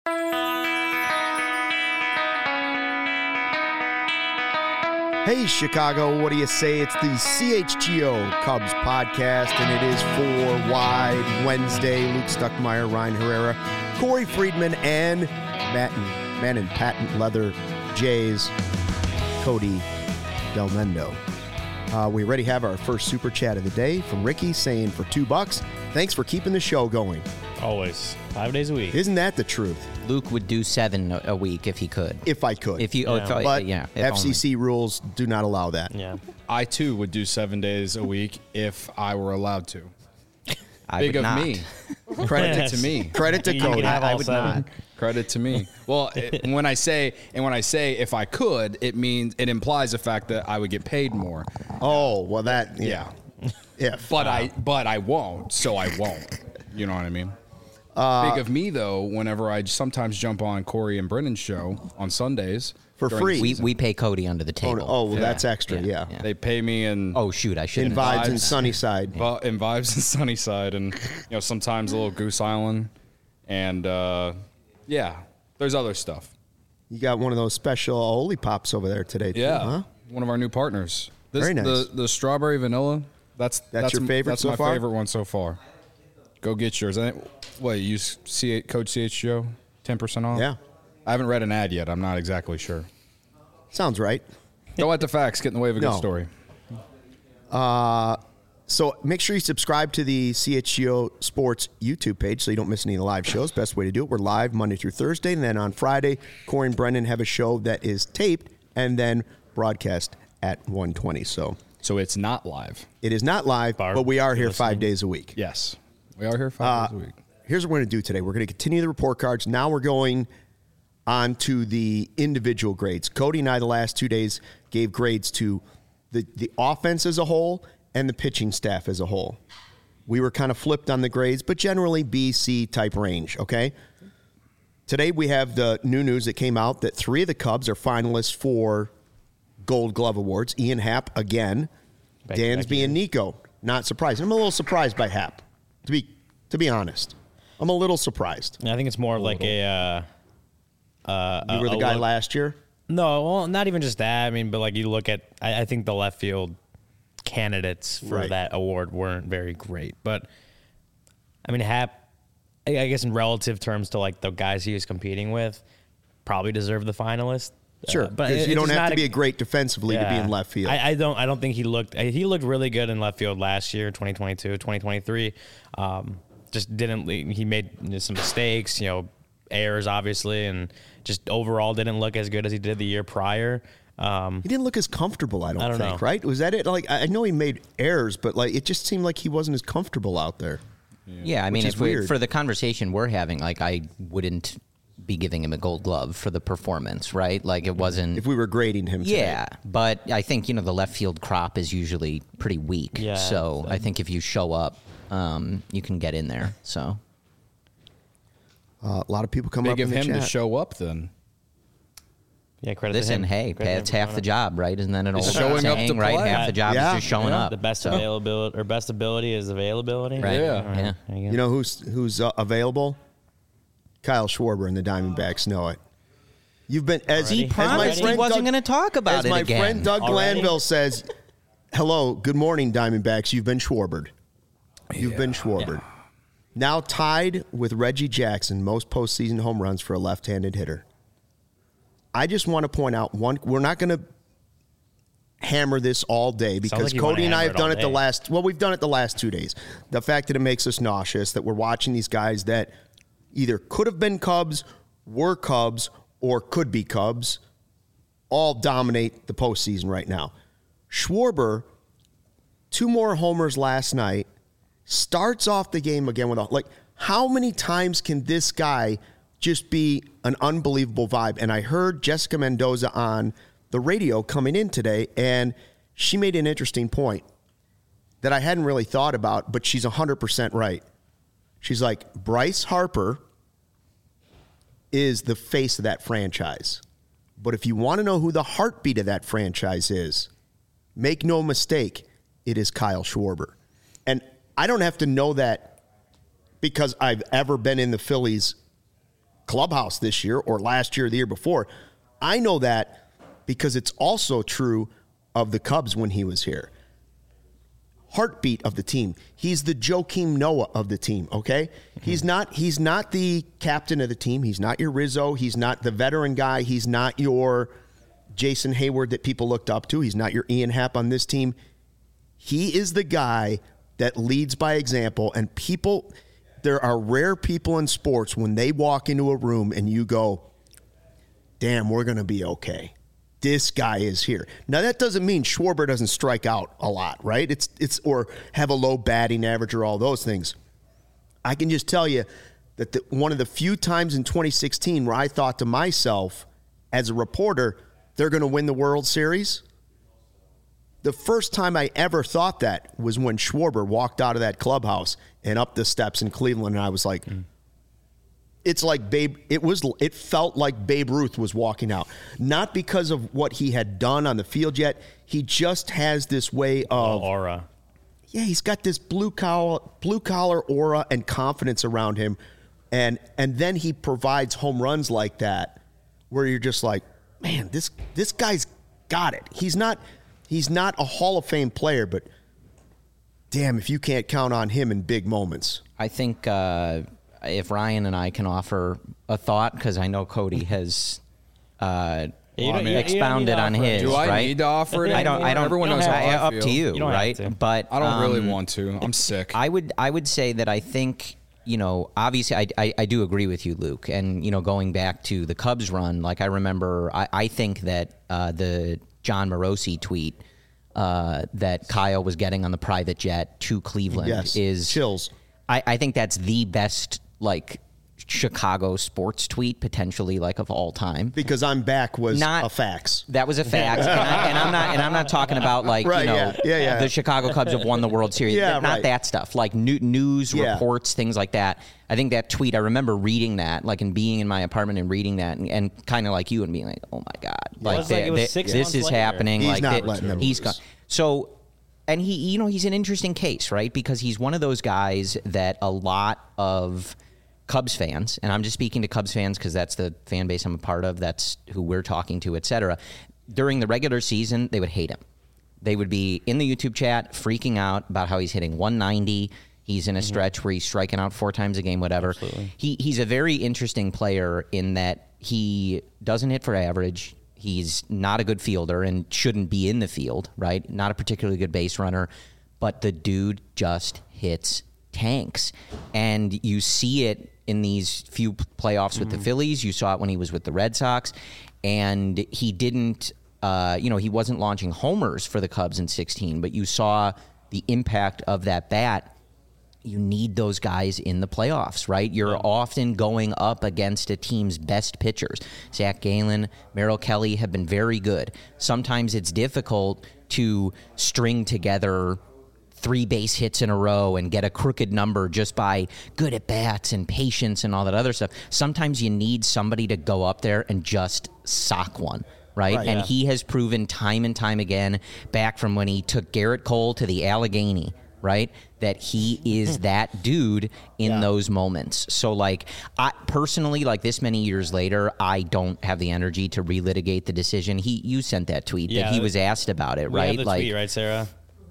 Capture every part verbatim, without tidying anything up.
Hey, Chicago, what do you say? It's the C H G O Cubs podcast, and it is for Wide Wednesday. Luke Stuckmeyer, Ryan Herrera, Corey Friedman, and Matt and, Matt and Patent Leather Jays, Cody Del Mendo. Uh, we already have our first super chat of the day from Ricky saying for two bucks, thanks for keeping the show going. Always. Five days a week. Isn't that the truth? Luke would do seven a week if he could. If I could. If you, Yeah. oh, if, But yeah, if F C C only. rules do not allow that. Yeah. I, too, would do seven days a week if I were allowed to. I Big would of not. me. Credit Yes. to me. Credit to You Cody. can have I all would seven. not. Credit to me. Well, it, when I say and when I say if I could, it means it implies the fact that I would get paid more. Oh, well, that, yeah. Yeah. If. But I but I won't, so I won't. You know what I mean? Uh, Big of me though, whenever I sometimes jump on Corey and Brennan's show on Sundays For during free. the We, season, we pay Cody under the Oh, table. no. oh well, Yeah. that's extra, yeah. Yeah, yeah. they pay me in Oh, shoot. I should In have. Vibes and Vibes. Sunnyside. Vi- in Vibes and Sunnyside, and you know sometimes a little Goose Island, and uh, yeah, there's other stuff. You got one of those special Holy Pops over there today, too, Yeah, huh? one of our new partners. This, Very nice. The the strawberry vanilla. That's that's, your favorite That's so my far? favorite one so far. Go get yours. I, what you use C- code C H G O ten percent off? Yeah. I haven't read an ad yet. I'm not exactly sure. Sounds right. Don't let the facts get in the way of a No. good story. So make sure you subscribe to the C H G O Sports YouTube page so you don't miss any of the live shows. Best way to do it. We're live Monday through Thursday, and then on Friday, Corey and Brendan have a show that is taped and then broadcast at one twenty. So So it's not live. it is not live, Barb, but we are if here you're five listening. days a week. Yes, we are here five days a week. Here's what we're going to do today. We're going to continue the report cards. Now we're going on to the individual grades. Cody and I, the last two days, gave grades to the, the offense as a whole and the pitching staff as a whole. We were kind of flipped on the grades, but generally B, C type range, okay? Today we have the new news that came out that three of the Cubs are finalists for Gold Glove Awards. Ian Happ again. Back- Dansby back and Nico. Not surprised. I'm a little surprised by Happ, to be to be honest. I'm a little surprised. I think it's more of like a. Uh, uh, You were the a guy look- last year? No, well, not even just that. I mean, but like you look at, I, I think the left field candidates for Right. that award weren't very great. But I mean, Hap, I I guess in relative terms to like the guys he was competing with, probably deserve the finalist. Sure, Uh, but because it- you it's don't just have not to be a great defensively to be Yeah. in left field. I, I don't. I don't think he looked. He looked really good in left field last year, twenty twenty-two, twenty twenty-three. Um, just didn't. He made some mistakes. You know, errors obviously, and just overall didn't look as good as he did the year prior. Um, he didn't look as comfortable, I don't, I don't think, know. right? Was that it? Like, I I know he made errors, but like it just seemed like he wasn't as comfortable out there. Yeah, I mean, Which is if we, weird. for the conversation we're having, like, I wouldn't be giving him a gold glove for the performance, right? Like, it wasn't. If we were grading him today. Yeah, but I think, you know, the left field crop is usually pretty weak. Yeah, So I- I think if you show up, um, you can get in there. So Uh, a lot of people come up Big in of the him to chat. show up then. yeah, credit listen, to him. hey, Credit to him it's for half showing the up. job, right? Isn't that an old Just showing up to saying, right? play. Half the job Yeah. is just showing Yeah. up. The best So- availability or best ability is availability. Right. Yeah. All right. Yeah. There you go. You know who's who's uh, available? Kyle Schwarber and the Diamondbacks know it. You've been as He as my promised he friend wasn't Doug- gonna talk about as it my again. friend Doug Already? Glanville says, "Hello, good morning, Diamondbacks. You've been Schwarbered. You've been Schwarbered. Now tied with Reggie Jackson, most postseason home runs for a left-handed hitter. I just want to point out one. We're not going to hammer this all day because like you wanna Cody and I hammer have it done all it the day. last. Well, we've done it the last two days. The fact that it makes us nauseous that we're watching these guys that either could have been Cubs, were Cubs, or could be Cubs, all dominate the postseason right now. Schwarber, two more homers last night, starts off the game again with a, like, how many times can this guy just be an unbelievable vibe? And I heard Jessica Mendoza on the radio coming in today, and she made an interesting point that I hadn't really thought about, but she's one hundred percent right. She's like, Bryce Harper is the face of that franchise. But if you want to know who the heartbeat of that franchise is, make no mistake, it is Kyle Schwarber. And I don't have to know that because I've ever been in the Phillies clubhouse this year or last year or the year before. I know that because it's also true of the Cubs when he was here. Heartbeat of the team. He's the Joakim Noah of the team, okay? Mm-hmm. He's not he's not the captain of the team. He's not your Rizzo. He's not the veteran guy. He's not your Jason Hayward that people looked up to. He's not your Ian Happ on this team. He is the guy that leads by example, and people, there are rare people in sports when they walk into a room and you go, damn, we're going to be okay. This guy is here. Now, that doesn't mean Schwarber doesn't strike out a lot, right? It's it's or have a low batting average or all those things. I can just tell you that the, one of the few times in twenty sixteen where I thought to myself as a reporter, they're going to win the World Series. The first time I ever thought that was when Schwarber walked out of that clubhouse and up the steps in Cleveland, and I was like, mm. It's like Babe. It was. It felt like Babe Ruth was walking out, not because of what he had done on the field yet. He just has this way of oh, aura. Yeah, he's got this blue collar, blue collar aura and confidence around him, and and then he provides home runs like that, where you're just like, man, this this guy's got it. He's not he's not a Hall of Fame player, but damn, if you can't count on him in big moments. I think. Uh If Ryan and I can offer a thought, because I know Cody has uh, well, I mean, expounded on his. Do I right? need to offer it? I don't. I don't. Everyone don't knows how I up feel. to you, you right? But I don't um, really want to. I'm sick. I would. I would say that I think you know. Obviously, I, I I do agree with you, Luke. And you know, going back to the Cubs run, like I remember, I, I think that uh, the John Morosi tweet uh, that Kyle was getting on the private jet to Cleveland yes. is chills. I, I think that's the best like. Chicago sports tweet potentially like of all time, because I'm back was not, a fax. That was a fax, and, I, and I'm not and I'm not talking about like right, you know yeah, yeah, yeah. the Chicago Cubs have won the World Series. Yeah, not right. that stuff like new, news yeah. reports, things like that. I think that tweet. I remember reading that, like, and being in my apartment and reading that, and, and kind of like you and being like, oh my god, like, was like it was they, six this is later. happening. He's like not they, letting them he's lose. gone. So. And he, you know, he's an interesting case, right? Because he's one of those guys that a lot of Cubs fans, and I'm just speaking to Cubs fans because that's the fan base I'm a part of, that's who we're talking to, et cetera. During the regular season, they would hate him. They would be in the YouTube chat freaking out about how he's hitting one ninety. He's in a mm-hmm. stretch where he's striking out four times a game, whatever. Absolutely. He He's a very interesting player in that he doesn't hit for average. He's not a good fielder and shouldn't be in the field, right? Not a particularly good base runner, but the dude just hits tanks. And you see it in these few playoffs with mm-hmm. the Phillies. You saw it when he was with the Red Sox. And he didn't, uh, you know, he wasn't launching homers for the Cubs in sixteen, but you saw the impact of that bat. You need those guys in the playoffs, right? You're yeah. often going up against a team's best pitchers. Zach Gallen, Merrill Kelly have been very good. Sometimes it's difficult to string together three base hits in a row and get a crooked number just by good at bats and patience and all that other stuff. Sometimes you need somebody to go up there and just sock one. Right? right? And yeah. he has proven time and time again, back from when he took Garrett Cole to the Allegheny, right, that he is that dude in yeah. those moments. So, like, I personally, like, this many years later, I don't have the energy to relitigate the decision. He, you sent that tweet yeah, that he was asked about it, we right? Have the like, tweet, right, Sarah?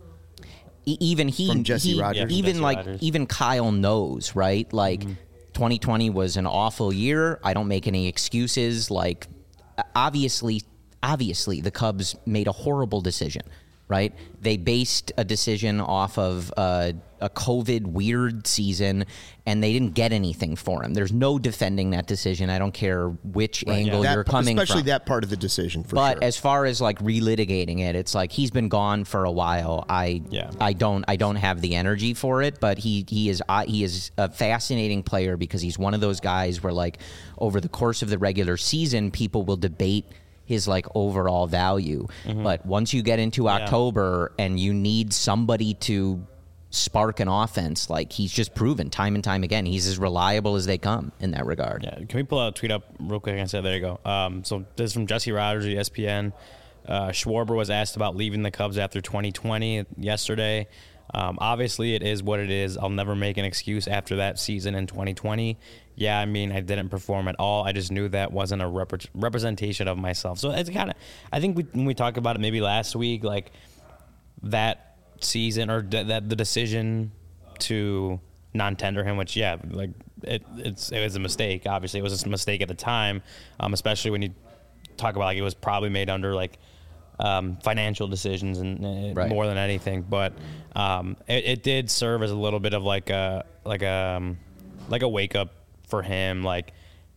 E- even he, From Jesse he Rogers. even Jesse like, Rogers. even Kyle knows, right? Like, mm-hmm. twenty twenty was an awful year. I don't make any excuses. Like, obviously, obviously, the Cubs made a horrible decision. Right? They based a decision off of uh, a COVID weird season, and they didn't get anything for him. There's no defending that decision. I don't care which right, angle yeah. you're that, coming especially from. that part of the decision, for but sure. as far as like relitigating it, it's like he's been gone for a while. I yeah. I don't I don't have the energy for it. But he he is uh, he is a fascinating player because he's one of those guys where like over the course of the regular season, people will debate his like overall value. Mm-hmm. But once you get into October yeah. and you need somebody to spark an offense, like he's just proven time and time again, he's as reliable as they come in that regard. Yeah. Can we pull out a tweet up real quick and say, there you go. Um, so this is from Jesse Rogers, E S P N. Uh, Schwarber was asked about leaving the Cubs after twenty twenty yesterday. Um, obviously, it is what it is. I'll never make an excuse after that season in twenty twenty. Yeah, I mean, I didn't perform at all. I just knew that wasn't a rep- representation of myself. So it's kind of, I think we, when we talked about it maybe last week, like that season or d- that the decision to non-tender him, which yeah, like it, it's it was a mistake. Obviously, it was a mistake at the time, um, especially when you talk about like it was probably made under like um, financial decisions and uh, Right. more than anything. But um, it, it did serve as a little bit of like a like a um, like a wake up for him. Like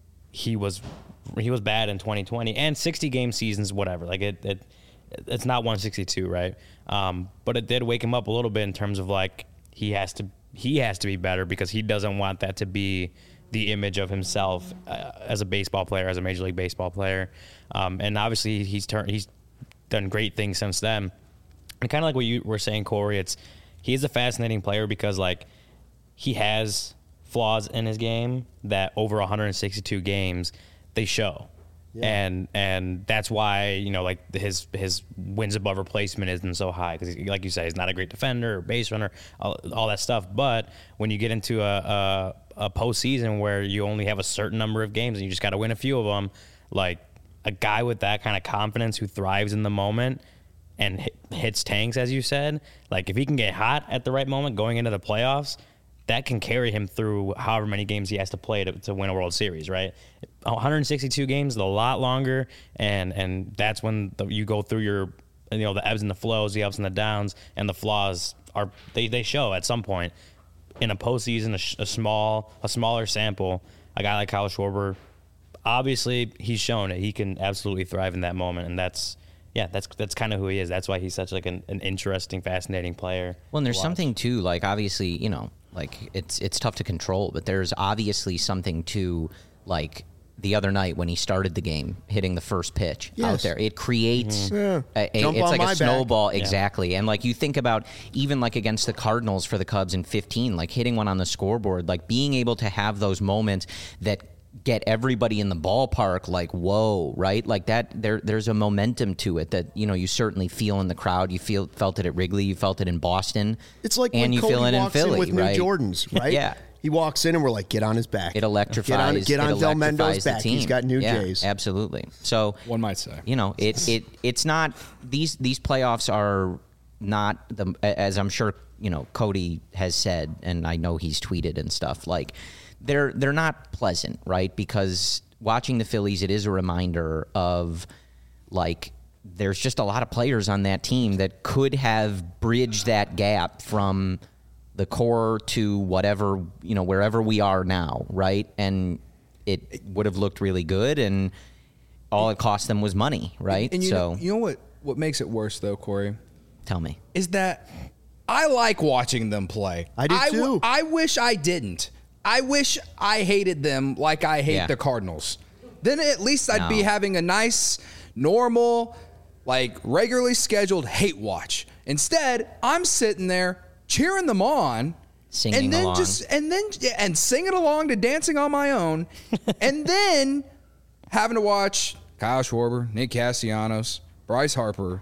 he was he was bad in twenty twenty and sixty game seasons, whatever. Like it, it it's not one sixty-two, right? Um, but it did wake him up a little bit in terms of like he has to he has to be better because he doesn't want that to be the image of himself uh, as a baseball player, as a Major League Baseball player. Um, and obviously he's turned he's done great things since then. And kind of like what you were saying, Corey, it's he's a fascinating player because like he has flaws in his game that over one hundred sixty-two games they show. Yeah. And and that's why, you know, like his his wins above replacement isn't so high because, like you said, he's not a great defender or base runner, all, all that stuff. But when you get into a, a a postseason where you only have a certain number of games and you just got to win a few of them, like a guy with that kind of confidence who thrives in the moment and hit, hits tanks, as you said, like if he can get hot at the right moment going into the playoffs, that can carry him through however many games he has to play to, to win a World Series, right? one hundred sixty-two games is a lot longer, and and that's when the, you go through your, you know, the ebbs and the flows, the ups and the downs, and the flaws are they, they show at some point. In a postseason, a, sh- a small a smaller sample, a guy like Kyle Schwarber, obviously he's shown it. He can absolutely thrive in that moment, and that's yeah, that's that's kind of who he is. That's why he's such like an, an interesting, fascinating player. Well, and there's to watch. something too, like obviously, you know, like it's it's tough to control, but there's obviously something to like the other night when he started the game, hitting the first pitch Yes. out there. It creates Mm-hmm. Yeah. a, a, Jump it's on like my a back. snowball, Yeah. exactly. And like you think about even like against the Cardinals for the Cubs in fifteen, like hitting one on the scoreboard, like being able to have those moments that get everybody in the ballpark like, whoa, right? Like that there there's a momentum to it that, you know, you certainly feel in the crowd. You feel felt it at Wrigley, you felt it in Boston. It's like and when you Cody feel it walks in Philly, in with right? new Jordans, right? Yeah. He walks in and we're like, get on his back. It electrifies. Get on, get on it Del Mendo's electrifies the back. team. He's got new yeah, Jays. Absolutely. So One might say. you know, it it it's not these these playoffs are not the as I'm sure you know Cody has said, and I know he's tweeted and stuff like they're they're not pleasant, right? Because watching the Phillies, it is a reminder of like there's just a lot of players on that team that could have bridged that gap from the core to whatever, you know, wherever we are now, right? And it would have looked really good, and all it cost them was money, right? And you so know, you know what, what makes it worse, though, Corey? tell me. Is that I like watching them play. I do, w- too. I wish I didn't. I wish I hated them like I hate Yeah. the Cardinals. Then at least I'd be No. having a nice, normal, like regularly scheduled hate watch. Instead, I'm sitting there cheering them on, Singing and then along. just and then yeah, and singing along to Dancing on My Own, and then having to watch Kyle Schwarber, Nick Castellanos, Bryce Harper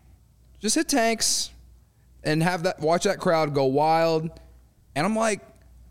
just hit tanks and have that watch that crowd go wild. And I'm like,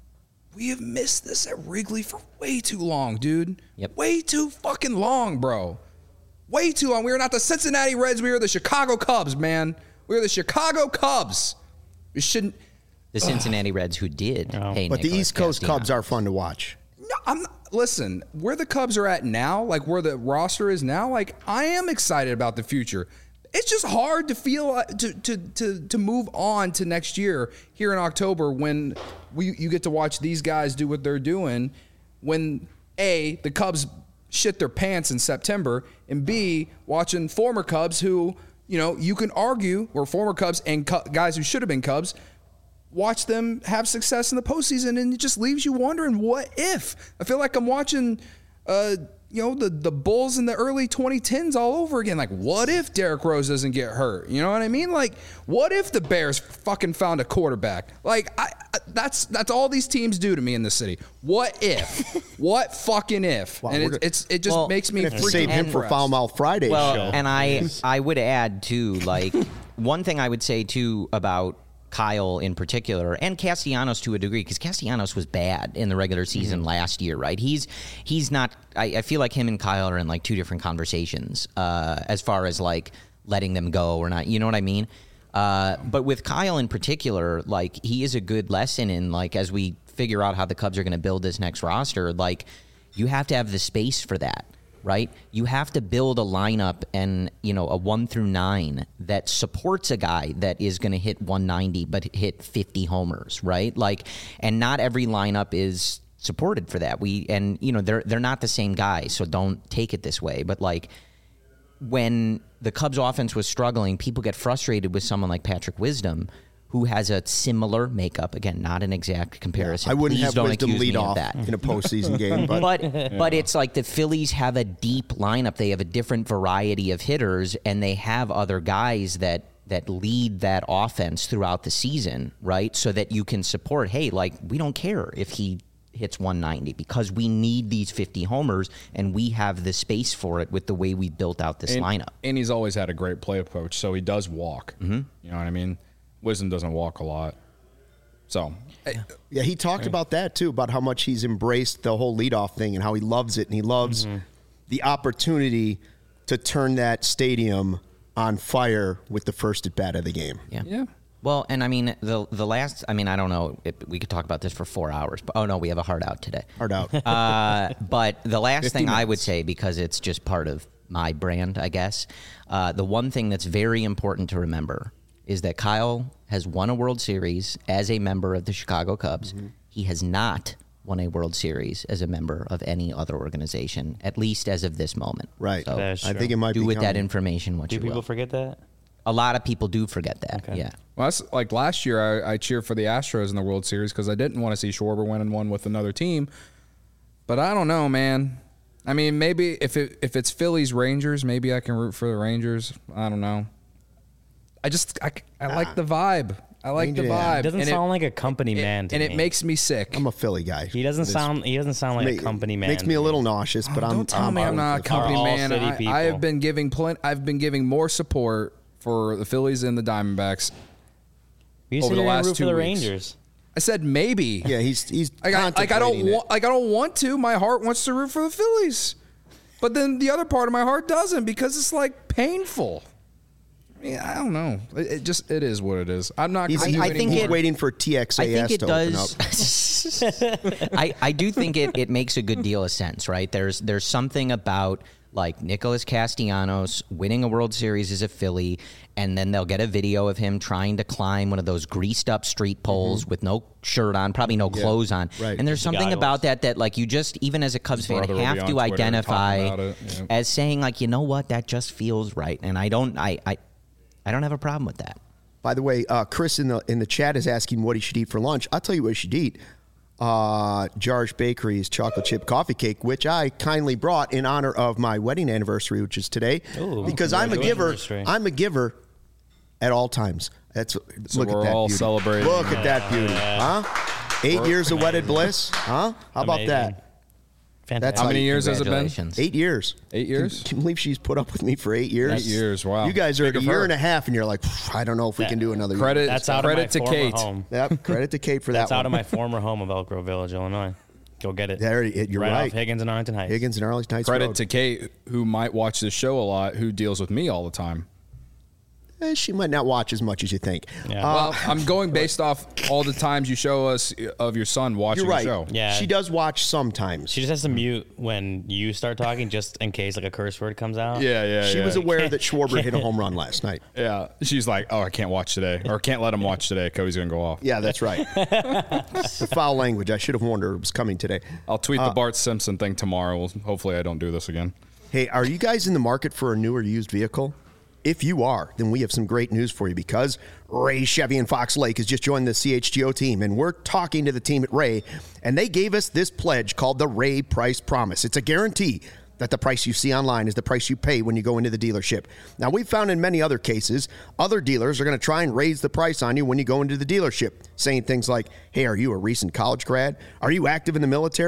we have missed this at Wrigley for way too long, dude. Yep. Way too fucking long, bro. Way too long. We are not the Cincinnati Reds. We are the Chicago Cubs, man. We are the Chicago Cubs. We shouldn't. The Cincinnati Reds, who did pay But the Nicholas East Coast Castellanos. Cubs are fun to watch. No, I'm not, listen, where the Cubs are at now, like where the roster is now, like I am excited about the future. It's just hard to feel uh, to to to to move on to next year here in October when we you get to watch these guys do what they're doing when A, the Cubs shit their pants in September, and B, watching former Cubs who, you know, you can argue were former Cubs and cu- guys who should have been Cubs, watch them have success in the postseason, and it just leaves you wondering, what if? I feel like I'm watching, uh, you know, the, the Bulls in the early twenty tens all over again. Like, what if Derrick Rose doesn't get hurt? You know what I mean? Like, what if the Bears fucking found a quarterback? Like, I, I that's that's all these teams do to me in the city. What if? What fucking if? Wow, and we're it, gonna- it's it just Well, makes me We have to freaking save him for depressed. Foul Mouth Friday Well, show. and I I would add too, like one thing I would say too about Kyle in particular, and Castellanos to a degree, because Castellanos was bad in the regular season mm-hmm. last year, right? He's he's not. I, I feel like him and Kyle are in like two different conversations uh, as far as like letting them go or not. You know what I mean? Uh, but with Kyle in particular, like he is a good lesson in like as we figure out how the Cubs are going to build this next roster, like you have to have the space for that. Right? You have to build a lineup and, you know, a one through nine that supports a guy that is going to hit one ninety but hit fifty homers, right? Like, and not every lineup is supported for that. We, and, you know, they're, they're not the same guy, so don't take it this way. But, like, when the Cubs offense was struggling, people get frustrated with someone like Patrick Wisdom, who has a similar makeup. Again, not an exact comparison. I wouldn't Please have don't Wisdom accuse lead me off of that. in a postseason game. But but, yeah. but it's like the Phillies have a deep lineup. They have a different variety of hitters, and they have other guys that that lead that offense throughout the season, right? So that you can support, hey, like, we don't care if he hits one ninety because we need these fifty homers, and we have the space for it with the way we built out this and, lineup. And he's always had a great play approach, so he does walk. Mm-hmm. You know what I mean? Wisdom doesn't walk a lot. So, yeah, yeah he talked yeah. about that too, about how much he's embraced the whole leadoff thing and how he loves it, and he loves mm-hmm. the opportunity to turn that stadium on fire with the first at bat of the game. Yeah. Yeah. Well, and I mean, the the last, I mean, I don't know, if we could talk about this for four hours, but oh no, we have a hard out today. Hard out. Uh, but the last thing minutes. I would say, because it's just part of my brand, I guess, uh, the one thing that's very important to remember is that Kyle has won a World Series as a member of the Chicago Cubs. Mm-hmm. He has not won a World Series as a member of any other organization, at least as of this moment. Right. So I think it might do be with coming. that information what Do you people will. forget that? A lot of people do forget that. Okay. Yeah. Well, that's like last year I, I cheered for the Astros in the World Series because I didn't want to see Schwarber winning one with another team. But I don't know, man. I mean, maybe if it if it's Phillies Rangers, maybe I can root for the Rangers. I don't know. I just I, I like the vibe. I like the Yeah. vibe. He doesn't And sound it, like a company it- man to and me. it makes me sick. I'm a Philly guy. He doesn't This sound. He doesn't sound like ma- a company man. Makes me a little nauseous, but Oh, I'm. don't tell I'm, me I'm not a for Philly. company all man. city I, people. I have been giving plen- I've been giving more support for the Phillies and the Diamondbacks. You over said the you're gonna last root two for the weeks. Rangers. I said maybe. Yeah, he's he's Like I, like I don't contemplating it. want like I don't want to. My heart wants to root for the Phillies, but then the other part of my heart doesn't because it's like painful. Yeah, I don't know. It, it just it is what it is. I'm not. He's, gonna he's, do I think he's it- waiting for T X A S I think it to open up. does. I, I do think it, it makes a good deal of sense, right? There's there's something about like Nicholas Castellanos winning a World Series as a Philly, and then they'll get a video of him trying to climb one of those greased up street poles Mm-hmm. with no shirt on, probably no clothes on. right. And there's The something goggles. about that that like you just, even as a Cubs His fan, brother will be have on to Twitter identify talking about it, yeah. as saying like, you know what, that just feels right. And I don't I I, I don't have a problem with that. By the way, uh, Chris in the in the chat is asking what he should eat for lunch. I'll tell you what he should eat. Uh, Jarge Bakery's chocolate chip coffee cake, which I kindly brought in honor of my wedding anniversary, which is today. Ooh, because I'm a giver. anniversary. I'm a giver at all times. That's So look we're at that all beauty. celebrating. Look at that beauty, huh? Eight years of wedded bliss, huh? How about Amazing. that? Fantastic. How many years has it been? Congratulations. Eight years. Eight years? Can, can you believe she's put up with me for eight years? Eight years, wow. You guys are at Big a of year her. and a half, and you're like, I don't know if we That- can do another Credit. year. That's out credit of my to former Kate. home. Yep. Credit to Kate for That's that out one. of my former home of Elk Grove Village, Illinois. Go get it. There, it- you're right, right. off Higgins and Arlington Heights. Higgins and Arlington Heights Credit Road. to Kate, who might watch this show a lot, who deals with me all the time. Eh, she might not watch as much as you think. Yeah. Uh, Well, I'm going based off all the times you show us of your son watching you're right. the show. Yeah. She does watch sometimes. She just has to mute when you start talking, just in case like a curse word comes out. Yeah, yeah, she yeah. was aware that Schwarber hit a home run last night. Yeah, she's like, oh, I can't watch today, or can't let him watch today. Cody's gonna go off. Yeah, that's right. The foul language. I should have warned her it was coming today. I'll tweet Uh, the Bart Simpson thing tomorrow. Well, hopefully, I don't do this again. Hey, are you guys in the market for a new or used vehicle? If you are, then we have some great news for you because Ray Chevy in Fox Lake has just joined the C H G O team, and we're talking to the team at Ray, and they gave us this pledge called the Ray Price Promise. It's a guarantee that the price you see online is the price you pay when you go into the dealership. Now, we've found in many other cases, other dealers are going to try and raise the price on you when you go into the dealership, saying things like, hey, are you a recent college grad? Are you active in the military?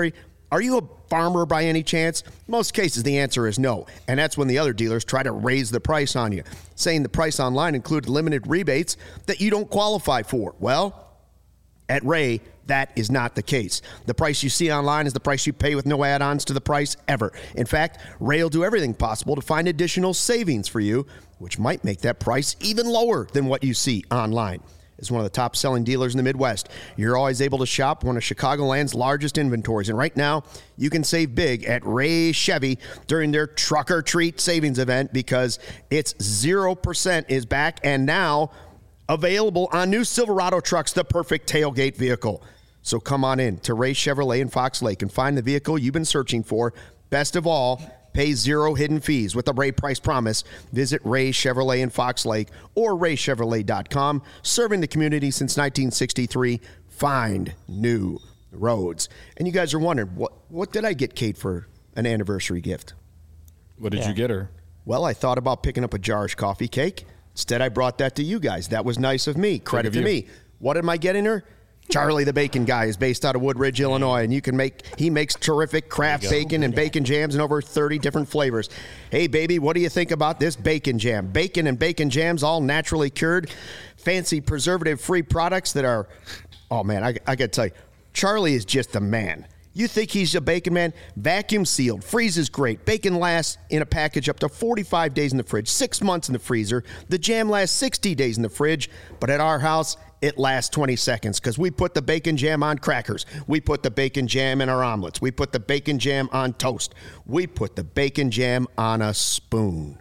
Are you a farmer by any chance? Most cases, the answer is no. And that's when the other dealers try to raise the price on you, saying the price online included limited rebates that you don't qualify for. Well, at Ray, that is not the case. The price you see online is the price you pay with no add-ons to the price ever. In fact, Ray will do everything possible to find additional savings for you, which might make that price even lower than what you see online. As one of the top-selling dealers in the Midwest, you're always able to shop one of Chicagoland's largest inventories. And right now, you can save big at Ray Chevy during their Truck or Treat savings event because it's zero percent is back and now available on new Silverado trucks, the perfect tailgate vehicle. So come on in to Ray Chevrolet in Fox Lake and find the vehicle you've been searching for. Best of all, pay zero hidden fees with the Ray Price Promise. Visit Ray Chevrolet in Fox Lake or ray chevrolet dot com. Serving the community since nineteen sixty-three. Find new roads. And you guys are wondering, what, what did I get Kate for an anniversary gift? What did Yeah. you get her? Well, I thought about picking up a Jar's coffee cake. Instead, I brought that to you guys. That was nice of me. Credit of to you. me. What am I getting her? Charlie the Bacon Guy is based out of Woodridge, Illinois, and you can make he makes terrific craft bacon and bacon jams in over thirty different flavors. Hey, baby, what do you think about this bacon jam? Bacon and bacon jams, all naturally cured, fancy preservative-free products that are, oh, man, I, I got to tell you, Charlie is just the man. You think he's a bacon man? Vacuum sealed, freezes great. Bacon lasts in a package up to forty-five days in the fridge, six months in the freezer. The jam lasts sixty days in the fridge, but at our house, it lasts twenty seconds because we put the bacon jam on crackers. We put the bacon jam in our omelets. We put the bacon jam on toast. We put the bacon jam on a spoon.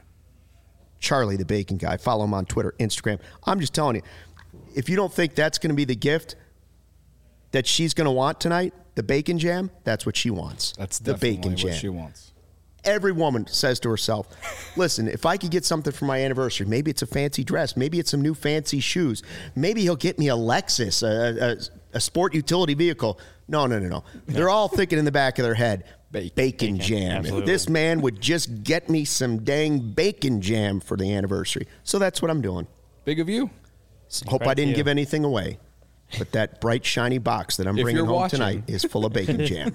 Charlie the Bacon Guy. Follow him on Twitter, Instagram. I'm just telling you, if you don't think that's going to be the gift that she's going to want tonight, the bacon jam, that's what she wants. That's the definitely bacon jam. what she wants. Every woman says to herself, listen, if I could get something for my anniversary, maybe it's a fancy dress, maybe it's some new fancy shoes, maybe he'll get me a Lexus, a, a, a sport utility vehicle. No, no, no, no. They're all thinking in the back of their head, bacon, bacon, bacon jam. Absolutely. If this man would just get me some dang bacon jam for the anniversary. So that's what I'm doing. Big of you. Hope Right I didn't to you. give anything away. But that bright, shiny box that I'm If bringing you're home watching. tonight is full of bacon jam.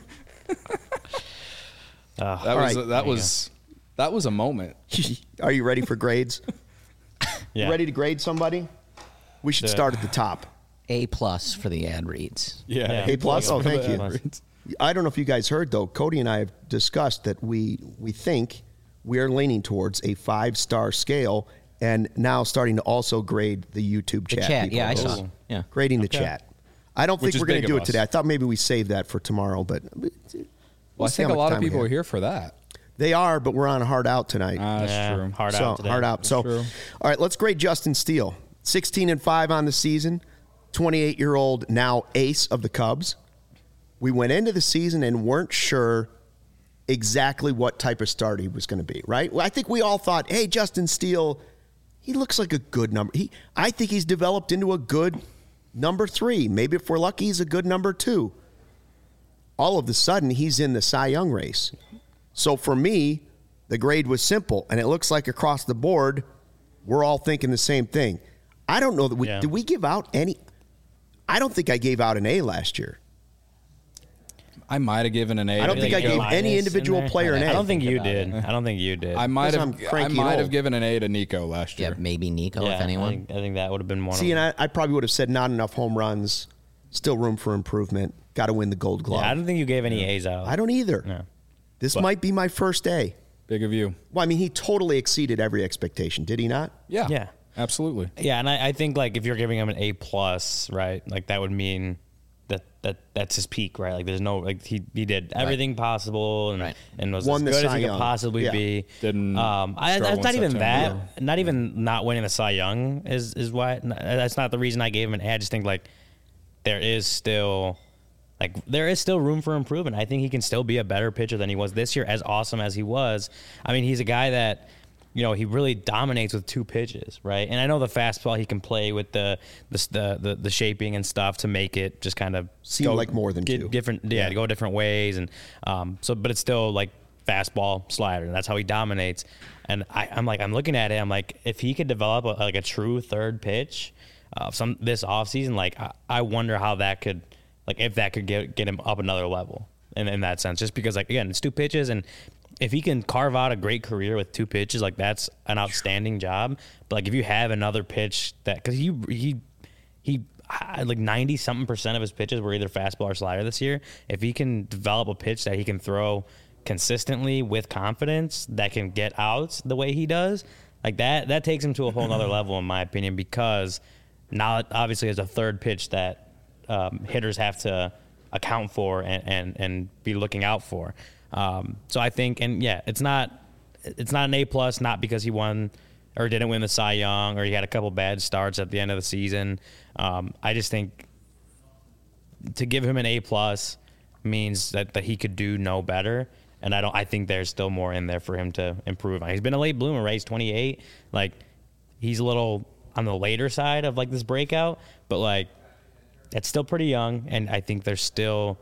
Uh, That was right. that you was that was a moment. Are you ready for grades? yeah. Ready to grade somebody? We should Do it. start at the top. A plus for the ad reads. Yeah. A plus? Oh, thank you. Plus. I don't know if you guys heard, though. Cody and I have discussed that we we think we are leaning towards a five-star scale and now starting to also grade the YouTube The chat. chat, people. yeah, I Those- saw. Yeah. Grading the chat. I don't Which think is we're going big to do of it today. us. I thought maybe we save that for tomorrow, but we'll Well, I see think how a much lot time of we people have. are here for that. They are, but we're on a hard out tonight. Ah, that's Yeah, true. hard so out today. hard out. So, true. all right, let's grade Justin Steele. sixteen and five on the season, twenty-eight year old now ace of the Cubs. We went into the season and weren't sure exactly what type of start he was going to be. Right? Well, I think we all thought, hey, Justin Steele, he looks like a good number. He, I think he's developed into a good number three. Maybe if we're lucky, he's a good number two. All of a sudden, he's in the Cy Young race. So for me, the grade was simple, and it looks like across the board, we're all thinking the same thing. I don't know that we Yeah. did we give out any. I don't think I gave out an A last year. I might have given an A. I don't to think I Nico. gave Minus any in individual there? player an A. I don't think you about did. I don't think you did. I might Because have. I'm I cranky might and have old. given an A to Nico last Yeah, year. maybe Nico, yeah, if anyone. I think, I think that would have been one See, of and them. I, I probably would have said not enough home runs, still room for improvement. Got to win the Gold Glove. Yeah, I don't think you gave any A's out. I don't either. No. This But- might be my first A. Big of you. Well, I mean, he totally exceeded every expectation, did he not? Yeah. Yeah. Absolutely. Yeah, and I, I think like if you're giving him an A plus, right? Like that would mean that that that's his peak, right? Like there's no like he he did everything possible and Right. and was Won the as good as Cy he could Young. possibly Yeah. be. Didn't Um, I, struggle that's not in even September. that. Not even not winning the Cy Young is is why. That's not the reason I gave him an A. I just think like there is still. Like there is still room for improvement. I think he can still be a better pitcher than he was this year, as awesome as he was. I mean, he's a guy that, you know, he really dominates with two pitches, right? And I know the fastball he can play with the the the, the, the shaping and stuff to make it just kind of Seem like more than get two. different, yeah, to go different ways, and um, so but it's still like fastball slider, and that's how he dominates. And I, I'm like, I'm looking at it, I'm like, if he could develop a, like a true third pitch, uh, some this offseason, like I, I wonder how that could. Like if that could get get him up another level. in, in that sense, just because like again it's two pitches, and if he can carve out a great career with two pitches, like that's an outstanding job. But like if you have another pitch that because he he he like ninety something percent of his pitches were either fastball or slider this year. If he can develop a pitch that he can throw consistently with confidence that can get outs the way he does, like that that takes him to a whole nother level in my opinion, because now it obviously is a third pitch that um, hitters have to account for and, and, and be looking out for. Um, so I think, and yeah, it's not it's not an A plus, not because he won or didn't win the Cy Young or he had a couple bad starts at the end of the season. Um, I just think to give him an A plus means that, that he could do no better. And I don't. I think there's still more in there for him to improve on. He's been a late bloomer, right? He's twenty-eight. Like, he's a little on the later side of like this breakout, but like, it's still pretty young, and I think there's still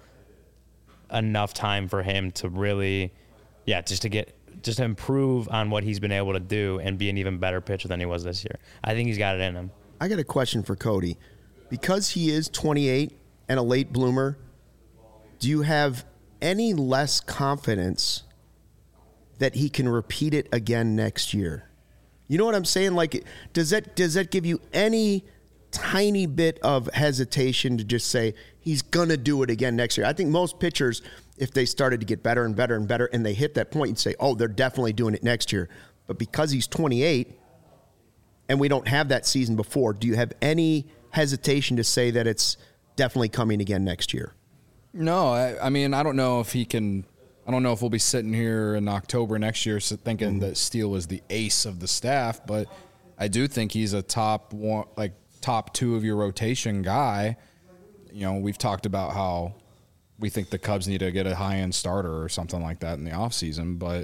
enough time for him to really, yeah, just to get, just to improve on what he's been able to do and be an even better pitcher than he was this year. I think he's got it in him. I got a question for Cody. Because he is twenty-eight and a late bloomer, do you have any less confidence that he can repeat it again next year? You know what I'm saying? Like, does that does that give you any tiny bit of hesitation to just say he's gonna do it again next year? I think most pitchers, if they started to get better and better and better and they hit that point, you'd say, oh, they're definitely doing it next year. But because he's twenty-eight and we don't have that season before, do you have any hesitation to say that it's definitely coming again next year? No, I, I mean, I don't know if he can. I don't know if we'll be sitting here in October next year thinking mm-hmm. that Steele is the ace of the staff, but I do think he's a top one, like top two of your rotation guy. You know, we've talked about how we think the Cubs need to get a high-end starter or something like that in the offseason, but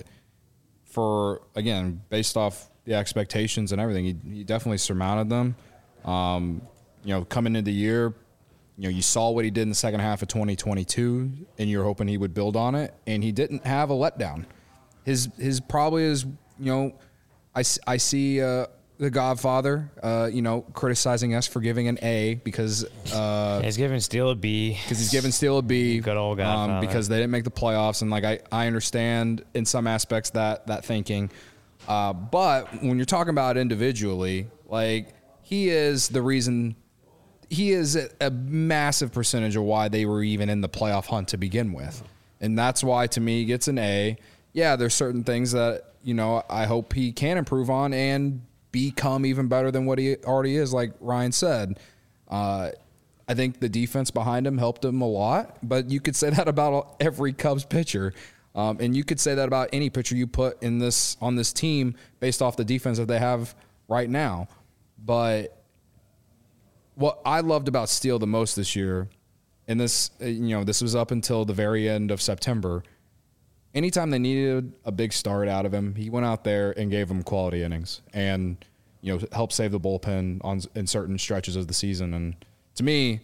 for, again, based off the expectations and everything, he, he definitely surmounted them. Um, you know, coming into the year, you know, you saw what he did in the second half of twenty twenty-two, and you're hoping he would build on it, and he didn't have a letdown. His his probably is, you know, I, I see uh, the Godfather, uh, you know, criticizing us for giving an A because uh, he's giving Steele a B. Because he's giving Steele a B. Good old Godfather. Um, because they didn't make the playoffs, and like I, I understand in some aspects that that thinking, uh, but when you're talking about individually, like he is the reason. He is a, a massive percentage of why they were even in the playoff hunt to begin with. And that's why, to me, he gets an A. Yeah, there's certain things that, you know, I hope he can improve on and become even better than what he already is, like Ryan said. Uh, I think the defense behind him helped him a lot, but you could say that about every Cubs pitcher. Um, and you could say that about any pitcher you put in this on this team based off the defense that they have right now. But what I loved about Steele the most this year, and this, you know, this was up until the very end of September, anytime they needed a big start out of him, he went out there and gave them quality innings and, you know, helped save the bullpen on in certain stretches of the season. And to me,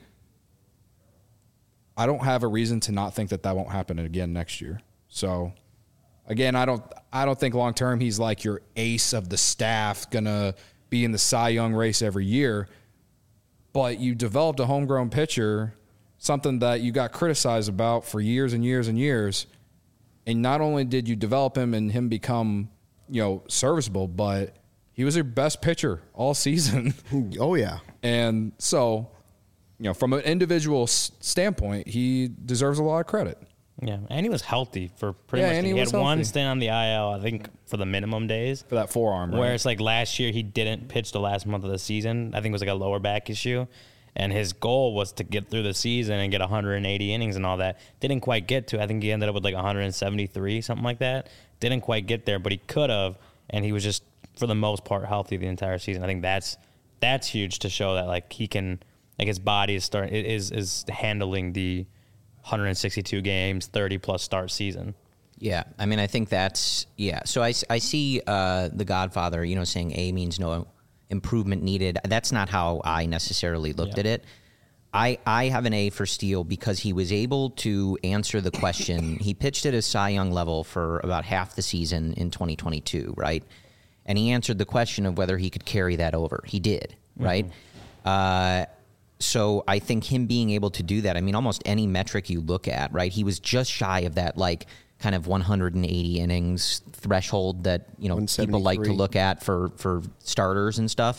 I don't have a reason to not think that that won't happen again next year. So, again, I don't I don't think long term he's like your ace of the staff, gonna be in the Cy Young race every year. But you developed a homegrown pitcher, something that you got criticized about for years and years and years. And not only did you develop him and him become, you know, serviceable, but he was your best pitcher all season. Oh, yeah. And so, you know, from an individual standpoint, he deserves a lot of credit. Yeah, and he was healthy for pretty Yeah, much. and He, he had was one healthy. stint on the I L, I think, for the minimum days. For that forearm, right? Where it's like last year he didn't pitch the last month of the season. I think it was like a lower back issue. And his goal was to get through the season and get one hundred eighty innings and all that. Didn't quite get to. I think he ended up with like one hundred seventy-three, something like that. Didn't quite get there, but he could have. And he was just, for the most part, healthy the entire season. I think that's that's huge to show that like he can, like his body is starting is is handling the one hundred sixty-two games, thirty plus start season. Yeah, I mean, I think that's, yeah. So I, I see uh, the Godfather, you know, saying A means no improvement needed. That's not how I necessarily looked Yeah. at it. I, I have an A for Steele because he was able to answer the question. He pitched at a Cy Young level for about half the season in twenty twenty-two, right? And he answered the question of whether he could carry that over. He did, right? Mm-hmm. Uh, So I think him being able to do that, I mean, almost any metric you look at, right? He was just shy of that, like, kind of one hundred eighty innings threshold that, you know, people like to look at for, for starters and stuff.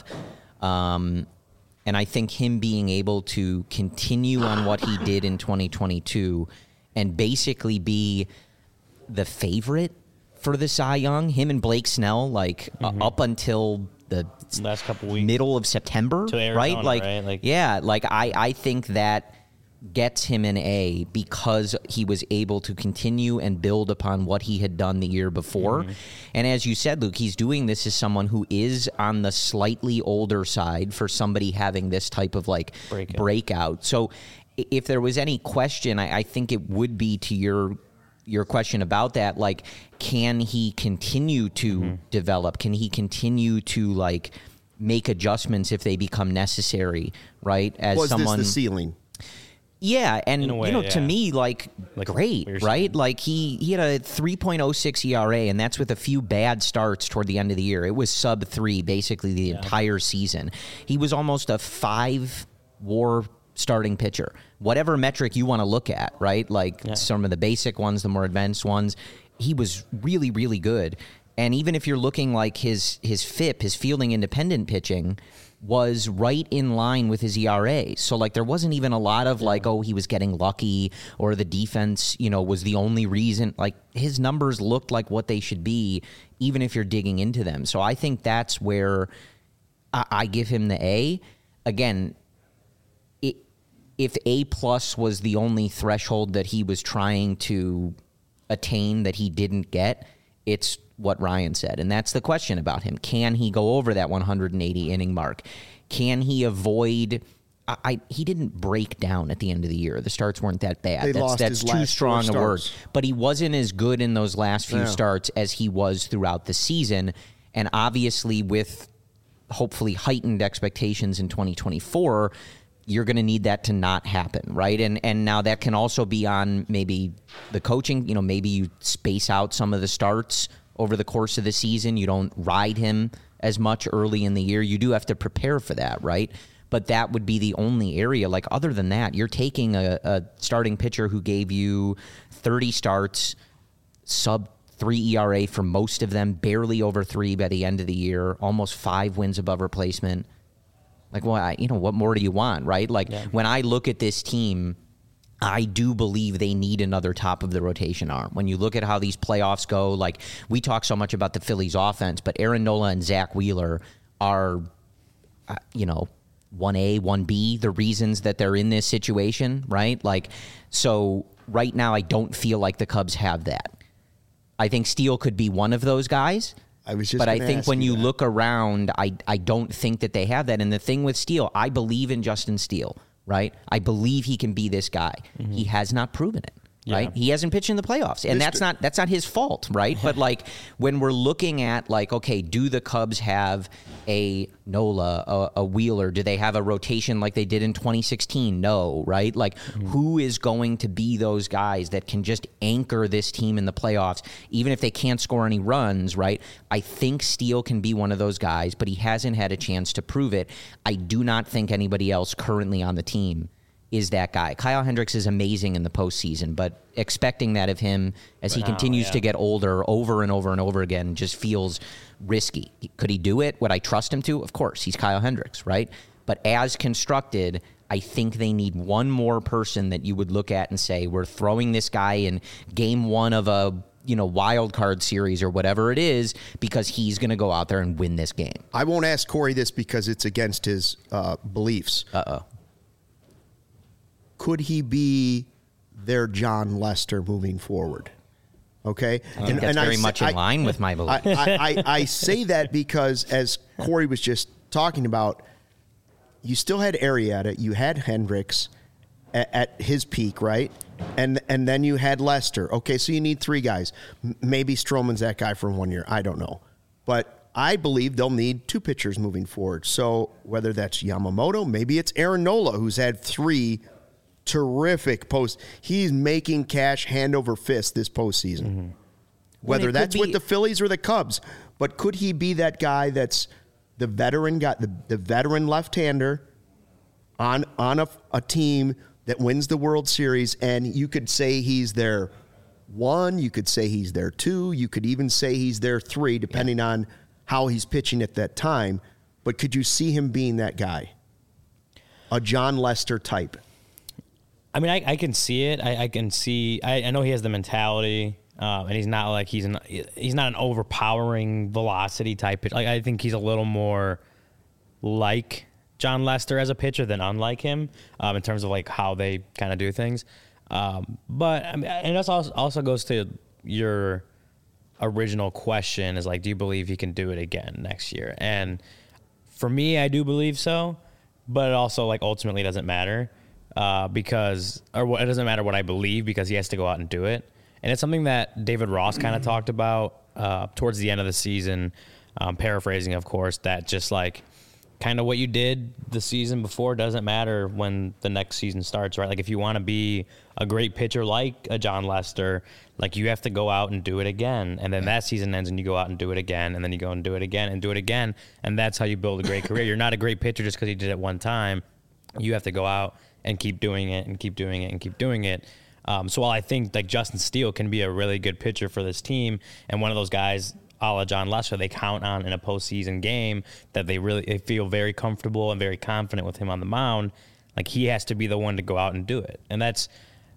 Um, and I think him being able to continue on what he did in twenty twenty-two and basically be the favorite for the Cy Young, him and Blake Snell, like mm-hmm. uh, up until the last couple weeks, middle of September, to Arizona, right? Like, right? Like, yeah, like I, I think that gets him an A because he was able to continue and build upon what he had done the year before. Mm-hmm. And as you said, Luke, he's doing this as someone who is on the slightly older side for somebody having this type of like breakout. breakout. So if there was any question, I, I think it would be to your your question about that, like, can he continue to mm-hmm. develop? Can he continue to like make adjustments if they become necessary, right? As Was someone this the ceiling? Yeah, and way, you know, yeah. to me, like, like great, right? Saying. Like he he had a three point oh six E R A, and that's with a few bad starts toward the end of the year. It was sub three basically the yeah. entire season. He was almost a five WAR starting pitcher. Whatever metric you want to look at, right? Like yeah. some of the basic ones, the more advanced ones, he was really, really good. And even if you're looking like his his F I P, his fielding independent pitching, was right in line with his E R A. So, like, there wasn't even a lot of, like, oh, he was getting lucky or the defense, you know, was the only reason. Like, his numbers looked like what they should be, even if you're digging into them. So I think that's where I, I give him the A. Again, it, if A plus was the only threshold that he was trying to attain that he didn't get, it's what Ryan said. And that's the question about him. Can he go over that one hundred eighty inning mark? Can he avoid I, I he didn't break down at the end of the year. The starts weren't that bad. They that's lost that's his too last strong four a word. starts. But he wasn't as good in those last few Yeah. starts as he was throughout the season. And obviously with hopefully heightened expectations in twenty twenty-four, you're going to need that to not happen, right? And and now that can also be on maybe the coaching. You know, maybe you space out some of the starts over the course of the season. You don't ride him as much early in the year. You do have to prepare for that, right? But that would be the only area. Like, other than that, you're taking a, a starting pitcher who gave you thirty starts, sub three E R A for most of them, barely over three by the end of the year, almost five wins above replacement. Like, well, I, you know, what more do you want, right? Like, yeah. when I look at this team, I do believe they need another top of the rotation arm. When you look at how these playoffs go, like, we talk so much about the Phillies offense, but Aaron Nola and Zach Wheeler are, uh, you know, one A, one B, the reasons that they're in this situation, right? Like, so right now I don't feel like the Cubs have that. I think Steele could be one of those guys. I was just but I gonna think ask when you that. look around, I, I don't think that they have that. And the thing with Steele, I believe in Justin Steele. Right? I believe he can be this guy. Mm-hmm. He has not proven it. Right? Yeah. He hasn't pitched in the playoffs. And that's not that's not his fault, right? But like when we're looking at like, okay, do the Cubs have a Nola, a, a Wheeler? Do they have a rotation like they did in twenty sixteen? No, right? Like mm-hmm. who is going to be those guys that can just anchor this team in the playoffs, even if they can't score any runs, right? I think Steele can be one of those guys, but he hasn't had a chance to prove it. I do not think anybody else currently on the team is that guy. Kyle Hendricks is amazing in the postseason, but expecting that of him as he Wow, continues yeah. to get older over and over and over again just feels risky. Could he do it? Would I trust him to? Of course. He's Kyle Hendricks, right? But as constructed, I think they need one more person that you would look at and say, we're throwing this guy in game one of a you know wild card series or whatever it is because he's going to go out there and win this game. I won't ask Corey this because it's against his uh, beliefs. Uh-oh. Could he be their John Lester moving forward? Okay, I think that's very I, much in I, line with my belief. I, I, I, I say that because, as Corey was just talking about, you still had Arrieta, you had Hendricks at, at his peak, right? And and then you had Lester. Okay, so you need three guys. M- maybe Stroman's that guy for one year. I don't know, but I believe they'll need two pitchers moving forward. So whether that's Yamamoto, maybe it's Aaron Nola, who's had three terrific post. He's making cash hand over fist this postseason. Mm-hmm. Whether that's be, with the Phillies or the Cubs, but could he be that guy that's the veteran guy, the, the veteran left-hander on on a, a team that wins the World Series, and you could say he's their one, you could say he's their two, you could even say he's their three, depending yeah. on how he's pitching at that time. But could you see him being that guy? A Jon Lester type? I mean, I, I can see it. I, I can see. I, I know he has the mentality, uh, and he's not like he's an he's not an overpowering velocity type pitcher. Like, I think he's a little more like Jon Lester as a pitcher than unlike him um, in terms of like how they kind of do things. Um, but I mean, and that also also goes to your original question: is like, do you believe he can do it again next year? And for me, I do believe so. But it also like ultimately doesn't matter. Uh, because, or what, it doesn't matter what I believe because he has to go out and do it. And it's something that David Ross kind of talked about uh, towards the end of the season, um, paraphrasing, of course, that just like kind of what you did the season before doesn't matter when the next season starts, right? Like if you want to be a great pitcher like a Jon Lester, like you have to go out and do it again. And then that season ends and you go out and do it again. And then you go and do it again and do it again. And that's how you build a great career. You're not a great pitcher just because you did it one time. You have to go out and keep doing it and keep doing it and keep doing it. Um, so while I think like Justin Steele can be a really good pitcher for this team and one of those guys a la Jon Lester they count on in a postseason game that they really they feel very comfortable and very confident with him on the mound, like he has to be the one to go out and do it. And that's,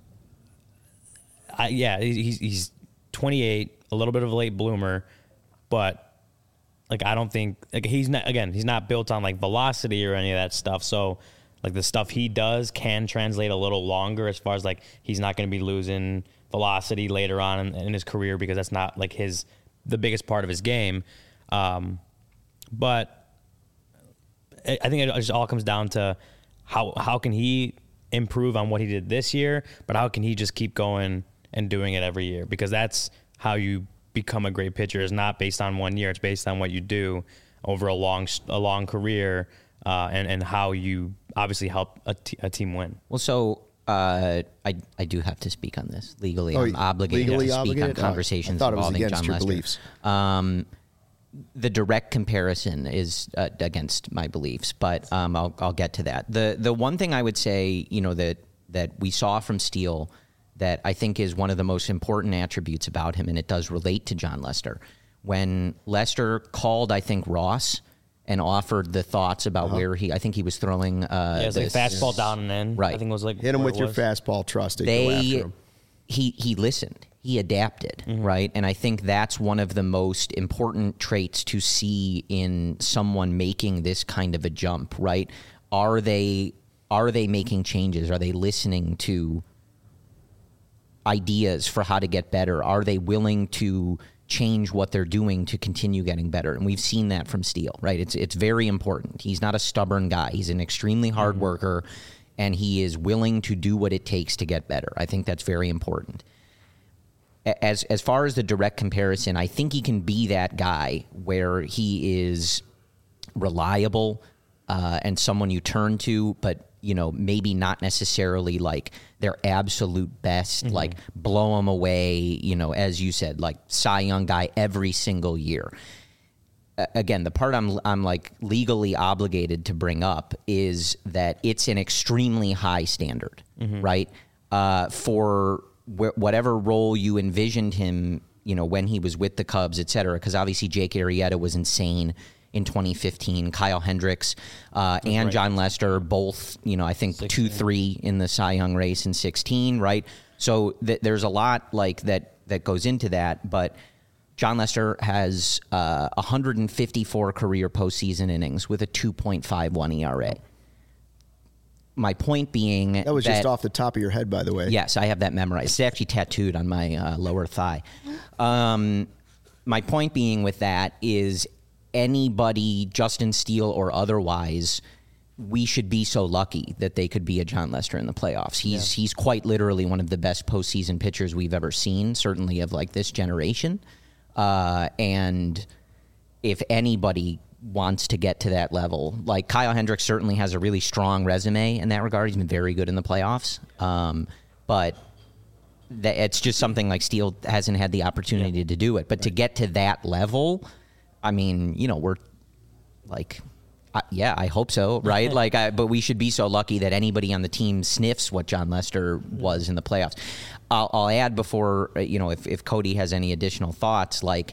I, yeah, he's, he's twenty-eight, a little bit of a late bloomer, but like I don't think, like he's not, again, he's not built on like velocity or any of that stuff. So like the stuff he does can translate a little longer as far as like he's not going to be losing velocity later on in, in his career because that's not like his the biggest part of his game. Um, but I, I think it just all comes down to how how can he improve on what he did this year, but how can he just keep going and doing it every year? Because that's how you become a great pitcher. Is not based on one year. It's based on what you do over a long a long career. Uh, and, and how you obviously help a, t- a team win. Well, so uh, I I do have to speak on this legally. Oh, I'm obligated legally to speak obligated? on conversations I thought it was involving against Jon your Lester. beliefs. Um, the direct comparison is uh, against my beliefs, but um, I'll I'll get to that. the The one thing I would say, you know, that that we saw from Steele that I think is one of the most important attributes about him, and it does relate to Jon Lester. When Lester called, I think Ross. And offered the thoughts about uh-huh. where he, I think he was throwing. Uh, yeah, it's like fastball down and in. Right. I think it was like hit him with your was. fastball. Trust it. They, go after him. He he listened. He adapted. Mm-hmm. Right. And I think that's one of the most important traits to see in someone making this kind of a jump. Right. Are they are they making changes? Are they listening to ideas for how to get better? Are they willing to change what they're doing to continue getting better? And we've seen that from Steele, right? It's it's very important. He's not a stubborn guy. He's an extremely hard mm-hmm. worker, and he is willing to do what it takes to get better. I think that's very important. As as far as the direct comparison, I think he can be that guy where he is reliable uh, and someone you turn to, but you know, maybe not necessarily like their absolute best, mm-hmm. like blow them away, you know, as you said, like Cy Young guy every single year. Uh, again, the part I'm I'm like legally obligated to bring up is that it's an extremely high standard, mm-hmm. right? Uh, for wh- whatever role you envisioned him, you know, when he was with the Cubs, et cetera, because obviously Jake Arrieta was insane in twenty fifteen, Kyle Hendricks uh, and right. Jon Lester, both, you know, I think sixteen. two, three in the Cy Young race in sixteen, right? So th- there's a lot like that that goes into that. But Jon Lester has uh, one hundred fifty-four career postseason innings with a two point five one E R A. My point being that was that, just off the top of your head, by the way. Yes, I have that memorized. It's actually tattooed on my uh, lower thigh. Um, my point being with that is anybody, Justin Steele or otherwise, we should be so lucky that they could be a Jon Lester in the playoffs. He's yeah. he's quite literally one of the best postseason pitchers we've ever seen, certainly of like this generation. Uh, and if anybody wants to get to that level, like Kyle Hendricks certainly has a really strong resume in that regard. He's been very good in the playoffs. Um, but that it's just something like Steele hasn't had the opportunity yeah. to do it. But right. to get to that level, I mean, you know, we're like, Uh, yeah, I hope so, right? like, I, but we should be so lucky that anybody on the team sniffs what John Lester was in the playoffs. I'll, I'll add before, you know, if, if Cody has any additional thoughts, like,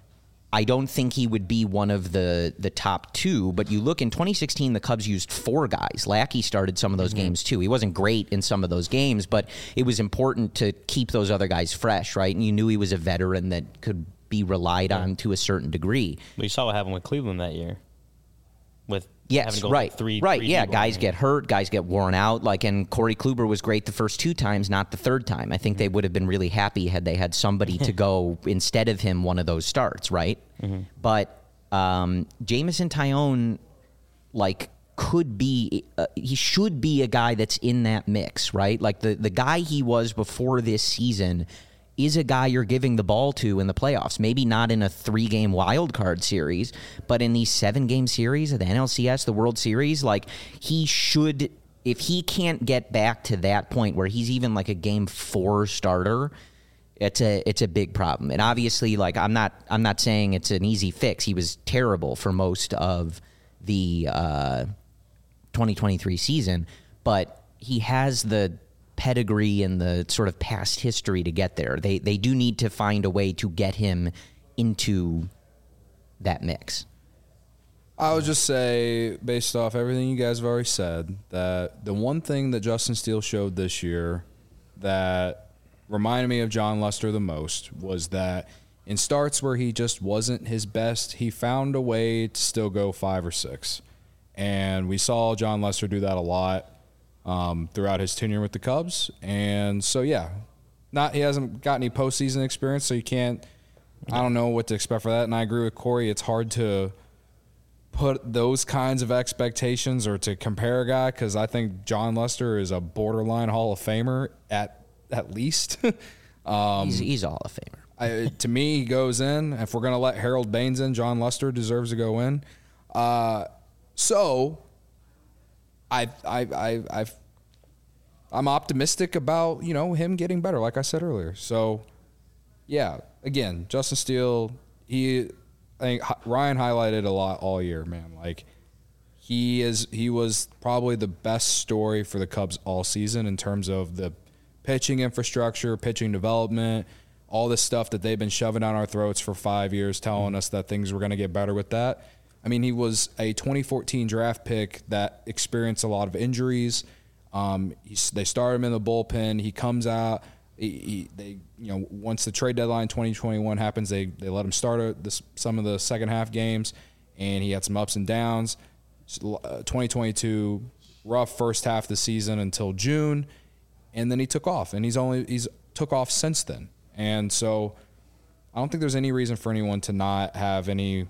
I don't think he would be one of the the top two, but you look in twenty sixteen, the Cubs used four guys. Lackey started some of those mm-hmm. games too. He wasn't great in some of those games, but it was important to keep those other guys fresh, right? And you knew he was a veteran that could be relied yeah. on to a certain degree. But you saw what happened with Cleveland that year. With yes, right, three, right, three yeah. Guys get hurt, guys get worn out. Like, and Corey Kluber was great the first two times, not the third time. I think mm-hmm. they would have been really happy had they had somebody to go instead of him one of those starts, right? Mm-hmm. But um, Jameson Taillon, like, could be, uh, he should be a guy that's in that mix, right? Like the the guy he was before this season is a guy you're giving the ball to in the playoffs. Maybe not in a three-game wild card series, but in these seven-game series of the N L C S, the World Series, like, he should, if he can't get back to that point where he's even like a game four starter, it's a it's a big problem. And obviously, like, I'm not I'm not saying it's an easy fix. He was terrible for most of the uh, twenty twenty-three season, but he has the pedigree and the sort of past history to get there. They they do need to find a way to get him into that mix. I would just say, based off everything you guys have already said, that the one thing that Justin Steele showed this year that reminded me of John Lester the most was that in starts where he just wasn't his best, he found a way to still go five or six. And we saw John Lester do that a lot Um, throughout his tenure with the Cubs. And so, yeah, not he hasn't got any postseason experience, so you can't – I don't know what to expect for that. And I agree with Corey. It's hard to put those kinds of expectations or to compare a guy because I think John Lester is a borderline Hall of Famer at, at least. um, he's, he's a Hall of Famer. I, to me, he goes in. If we're going to let Harold Baines in, John Lester deserves to go in. Uh, so – I, I, I, I've, I'm optimistic about, you know, him getting better, like I said earlier. So, yeah, again, Justin Steele, he, I think Ryan highlighted a lot all year, man. Like, he is, he was probably the best story for the Cubs all season in terms of the pitching infrastructure, pitching development, all this stuff that they've been shoving down our throats for five years, telling us that things were going to get better with that. I mean, he was a twenty fourteen draft pick that experienced a lot of injuries. Um, he, they started him in the bullpen. He comes out. He, he, they, you know, once the trade deadline twenty twenty-one happens, they they let him start a, this, some of the second half games, and he had some ups and downs. Uh, twenty twenty-two, rough first half of the season until June, and then he took off, and he's only he's took off since then. And so, I don't think there's any reason for anyone to not have any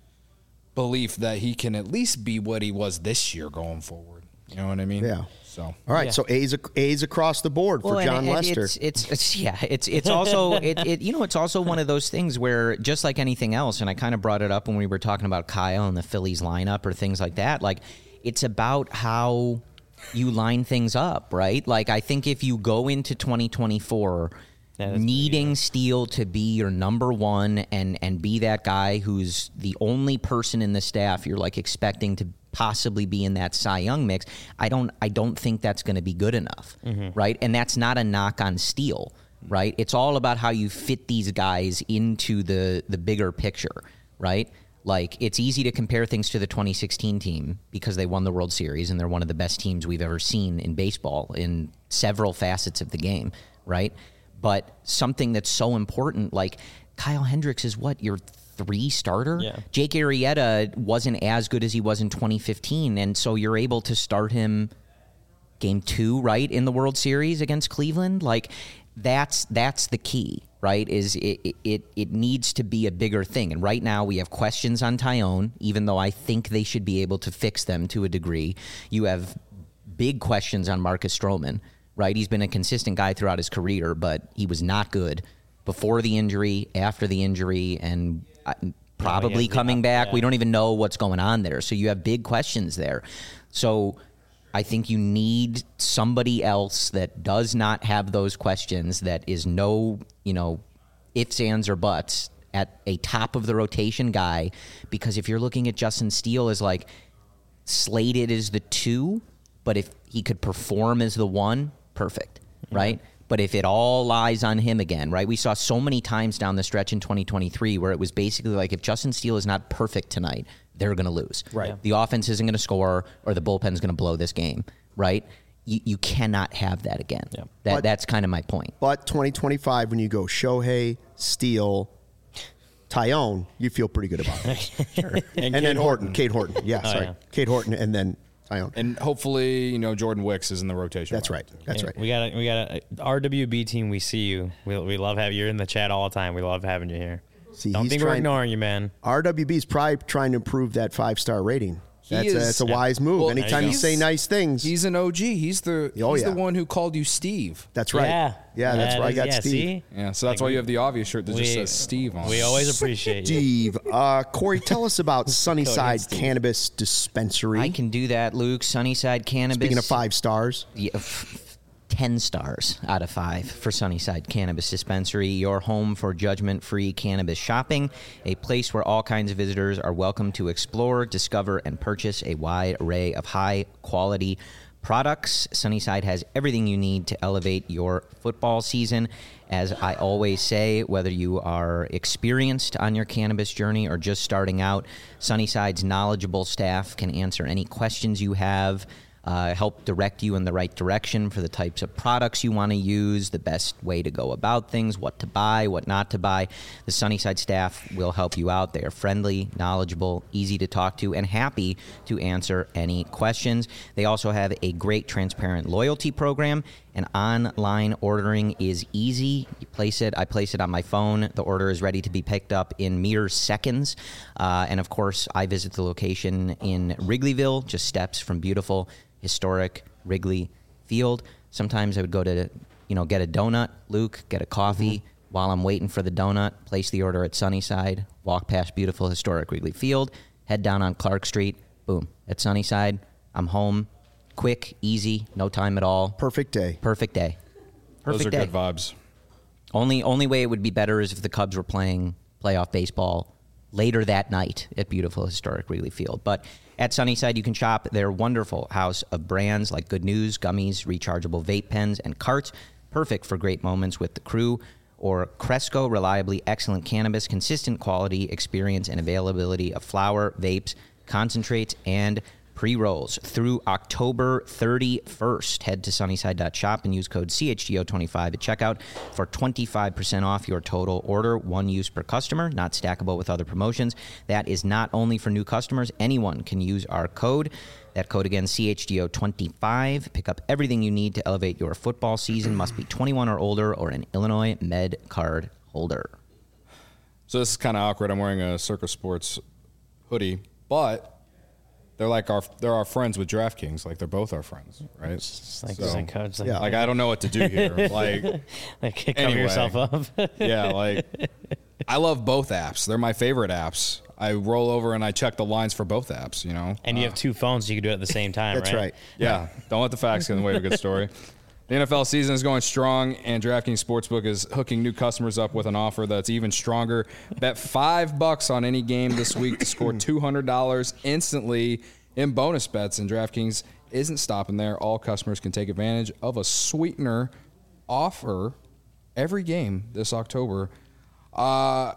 belief that he can at least be what he was this year going forward. You know what I mean? Yeah. So all right. Yeah. So A's A's across the board for well, John and, and Lester. It's, it's, it's yeah. It's it's also it, it you know it's also one of those things where just like anything else, and I kind of brought it up when we were talking about Kyle and the Phillies lineup or things like that. Like, it's about how you line things up, right? Like, I think if you go into twenty twenty-four. Yeah, needing Steele to be your number one and, and be that guy who's the only person in the staff you're like expecting to possibly be in that Cy Young mix, I don't I don't think that's going to be good enough, mm-hmm. right? And that's not a knock on Steele, right? It's all about how you fit these guys into the the bigger picture, right? Like, it's easy to compare things to the twenty sixteen team because they won the World Series and they're one of the best teams we've ever seen in baseball in several facets of the game, right? But something that's so important, like Kyle Hendricks is what, your three starter? Yeah. Jake Arrieta wasn't as good as he was in twenty fifteen, and so you're able to start him game two, right, in the World Series against Cleveland. Like, that's that's the key, right, is it, it, it needs to be a bigger thing. And right now we have questions on Taillon, even though I think they should be able to fix them to a degree. You have big questions on Marcus Stroman. Right, he's been a consistent guy throughout his career, but he was not good before the injury, after the injury, and probably coming back. We don't even know what's going on there. So you have big questions there. So I think you need somebody else that does not have those questions, that is no, you know, ifs, ands, or buts at a top of the rotation guy. Because if you're looking at Justin Steele as like, slated as the two, but if he could perform as the one, perfect, right? But if it all lies on him again, right? We saw so many times down the stretch in twenty twenty-three where it was basically like, if Justin Steele is not perfect tonight, they're going to lose. Right. The offense isn't going to score, or the bullpen's going to blow this game, right? You, you cannot have that again. Yeah. That But- That's kind of my point. But twenty twenty-five, when you go Shohei, Steele, Tyone, you feel pretty good about it. and, Kate then Horton, Kate Horton. Yeah, Oh, sorry. yeah. Kate Horton, and then Tyone. And hopefully, you know, Jordan Wicks is in the rotation. That's by right. then, too. That's Yeah, right. We got a, we got a R W B team. We see you. We, we love having you. You're in the chat all the time. We love having you here. See, Don't he's think we're trying- ignoring you, man. R W B is probably trying to improve that five star rating. He That's, a, is- that's a Yeah. wise move. Well, Anytime you he's- say nice things, He's an O G. He's the Oh, he's yeah. the one who called you Steve. that's right. Yeah. yeah, that's That where I is- got yeah, Steve. See? Yeah, so that's why you have the obvious shirt that just We- says Steve on We it. always appreciate you. Steve, uh, Corey, tell us about Sunnyside Steve. Cannabis Dispensary. I can do that, Luke. Sunnyside Cannabis. Speaking of five stars, Yeah, f- ten stars out of five for Sunnyside Cannabis Dispensary, your home for judgment-free cannabis shopping, a place where all kinds of visitors are welcome to explore, discover, and purchase a wide array of high-quality products. Sunnyside has everything you need to elevate your football season. As I always say, whether you are experienced on your cannabis journey or just starting out, Sunnyside's knowledgeable staff can answer any questions you have, Uh, help direct you in the right direction for the types of products you want to use, the best way to go about things, what to buy, what not to buy. The Sunnyside staff will help you out. They are friendly, knowledgeable, easy to talk to, and happy to answer any questions. They also have a great transparent loyalty program, and online ordering is easy. You place it, I place it on my phone. The order is ready to be picked up in mere seconds. Uh, and of course, I visit the location in Wrigleyville, just steps from beautiful historic Wrigley Field. Sometimes I would go to, you know, get a donut, Luke, get a coffee. Mm-hmm. While I'm waiting for the donut, place the order at Sunnyside, walk past beautiful historic Wrigley Field, head down on Clark Street, boom, at Sunnyside. I'm home, quick, easy, no time at all. perfect day. Perfect day. Perfect Those are day. good vibes. Only only way it would be better is if the Cubs were playing playoff baseball later that night at beautiful historic Wrigley Field. But at Sunnyside, you can shop their wonderful house of brands like Good News, gummies, rechargeable vape pens, and carts. Perfect for great moments with the crew. Or Cresco, reliably excellent cannabis, consistent quality, experience, and availability of flower, vapes, concentrates, and pre-rolls through October thirty-first. Head to sunnyside dot shop and use code C H G O twenty-five at checkout for twenty-five percent off your total order. One use per customer, not stackable with other promotions. That is not only for new customers. Anyone can use our code. That code again, C H G O twenty-five. Pick up everything you need to elevate your football season. Must be twenty-one or older or an Illinois Med card holder. So this is kind of awkward. I'm wearing a Circus Sports hoodie, but they're like our they're our friends with DraftKings. Like they're both our friends, right? It's like, So, it's like, it's like, yeah. like I don't know what to do here. Like like cover Anyway. yourself up. yeah, like I love both apps. They're my favorite apps. I roll over and I check the lines for both apps. You know, And you have two phones, so you can do it at the same time, That's right. yeah. Don't let the facts get in the way of a good story. The N F L season is going strong, and DraftKings Sportsbook is hooking new customers up with an offer that's even stronger. Bet five bucks on any game this week to score two hundred dollars instantly in bonus bets. And DraftKings isn't stopping there. All customers can take advantage of a sweetener offer every game this October. Uh,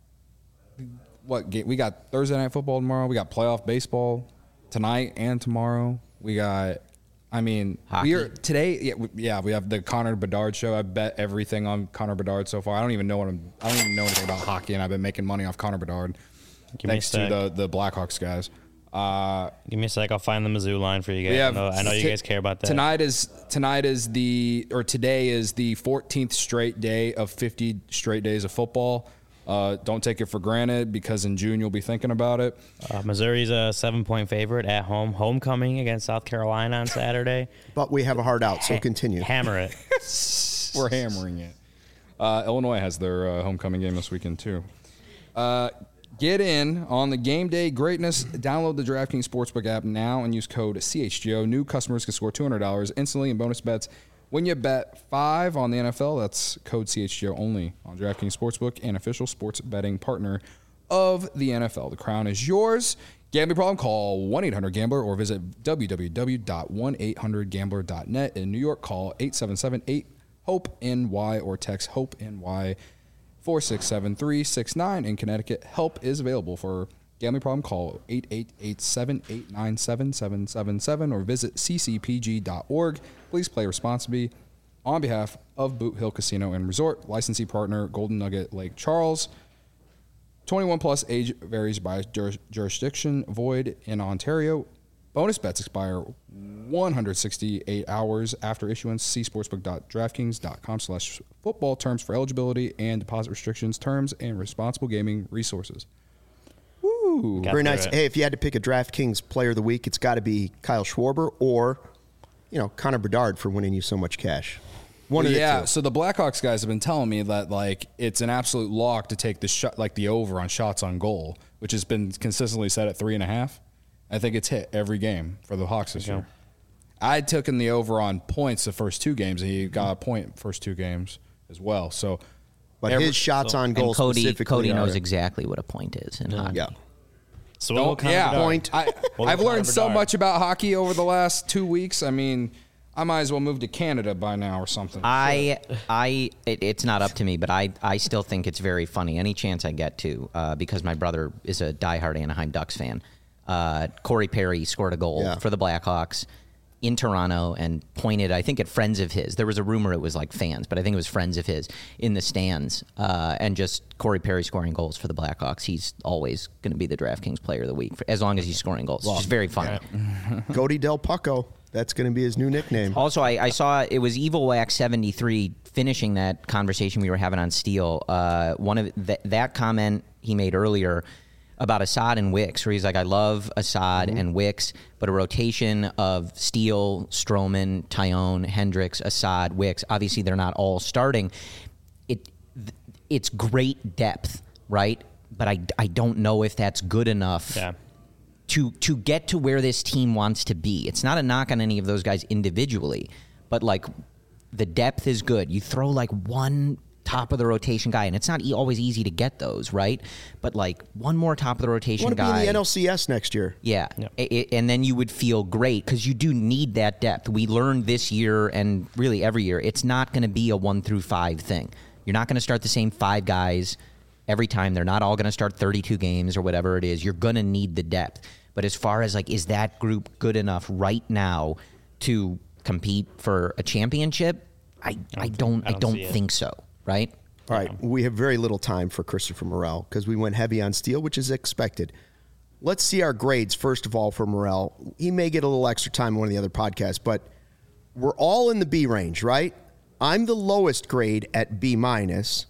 what game? We got Thursday Night Football tomorrow. We got playoff baseball tonight and tomorrow. We got. I mean, Hockey. we are today. Yeah, we, yeah, we have the Connor Bedard show. I bet everything on Connor Bedard so far. I don't even know what I'm. I don't even know anything about hockey, and I've been making money off Connor Bedard. Give me a Thanks to sec. the the Blackhawks guys. Uh, Give me a sec. I'll find the Mizzou line for you guys. we I have know, I know you t- guys care about that. Tonight is tonight is the or today is the fourteenth straight day of fifty straight days of football. Uh, don't take it for granted because in June you'll be thinking about it. Uh, Missouri's a seven-point favorite at home. Homecoming against South Carolina on Saturday. But we have a hard out, so Ha- continue. Hammer it. We're hammering it. Uh, Illinois has their uh, homecoming game this weekend too. Uh, get in on the game day greatness. Download the DraftKings Sportsbook app now and use code C H G O. New customers can score two hundred dollars instantly in bonus bets when you bet five on the N F L. That's code C H G O only on DraftKings Sportsbook, an official sports betting partner of the N F L. The crown is yours. Gambling problem? Call one eight hundred gambler or visit w w w dot one eight hundred gambler dot net. In New York, call eight seven seven eight hope N Y or text HOPE-NY four six seven three six nine. In Connecticut, help is available for gambling problem. Call eight eight eight seven eight nine seven seven seven seven or visit c c p g dot org. Please play responsibly on behalf of Boot Hill Casino and Resort. Licensee partner Golden Nugget Lake Charles. twenty-one plus, age varies by juris- jurisdiction, void in Ontario. Bonus bets expire one hundred sixty-eight hours after issuance. See sportsbook dot draftkings dot com slash football terms for eligibility and deposit restrictions, terms, and responsible gaming resources. Woo. Got Very through nice. it. Hey, if you had to pick a DraftKings player of the week, it's got to be Kyle Schwarber or, you know, Connor Bedard for winning you so much cash. One of the Yeah, two. so the Blackhawks guys have been telling me that like it's an absolute lock to take the shot, like the over on shots on goal, which has been consistently set at three and a half. I think it's hit every game for the Hawks this Okay. year. I took in the over on points the first two games, and he got a point first two games as well. So, But every- his shots on goal And Cody, specifically Cody knows are- exactly what a point is in hockey. Yeah. So what will Don't, Connor yeah, Bedard- Point. I, What will I've Connor learned so Bedard? much about hockey over the last two weeks. I mean, I might as well move to Canada by now or something. I, I, it, it's not up to me, but I, I still think it's very funny. Any chance I get to, uh, because my brother is a diehard Anaheim Ducks fan. Uh, Corey Perry scored a goal Yeah. for the Blackhawks in Toronto and pointed, I think, at friends of his. There was a rumor it was like fans, but I think it was friends of his in the stands. Uh, and just Corey Perry scoring goals for the Blackhawks. He's always going to be the DraftKings player of the week for, as long as he's scoring goals. It's just very funny. Cody Del Pucco. That's going to be his new nickname. Also, I, I saw it was Evil Wax seventy-three finishing that conversation we were having on Steel. Uh, one of th- that comment he made earlier about Assad and Wicks, where he's like, I love Assad and Wicks, but a rotation of Steele, Stroman, Tyone, Hendricks, Assad, Wicks, obviously they're not all starting. It th- It's great depth, right? But I, I don't know if that's good enough Yeah. to to get to where this team wants to be. It's not a knock on any of those guys individually, but like the depth is good. You throw like one top of the rotation guy, and it's not e- always easy to get those, right? But like one more top of the You rotation want to be guy. in the N L C S next year. Yeah. Yep. I- I- and then you would feel great because you do need that depth. We learned this year and really every year, it's not going to be a one through five thing. You're not going to start the same five guys every time. They're not all going to start thirty-two games or whatever it is. You're going to need the depth. But as far as like, is that group good enough right now to compete for a championship? I, I don't I I don't, don't see it. think so, right? All right, we have very little time for Christopher Morel because we went heavy on Steele, which is expected. Let's see our grades, first of all, for Morel. He may get a little extra time on one of the other podcasts, but we're all in the B range, right? I'm the lowest grade at B minus.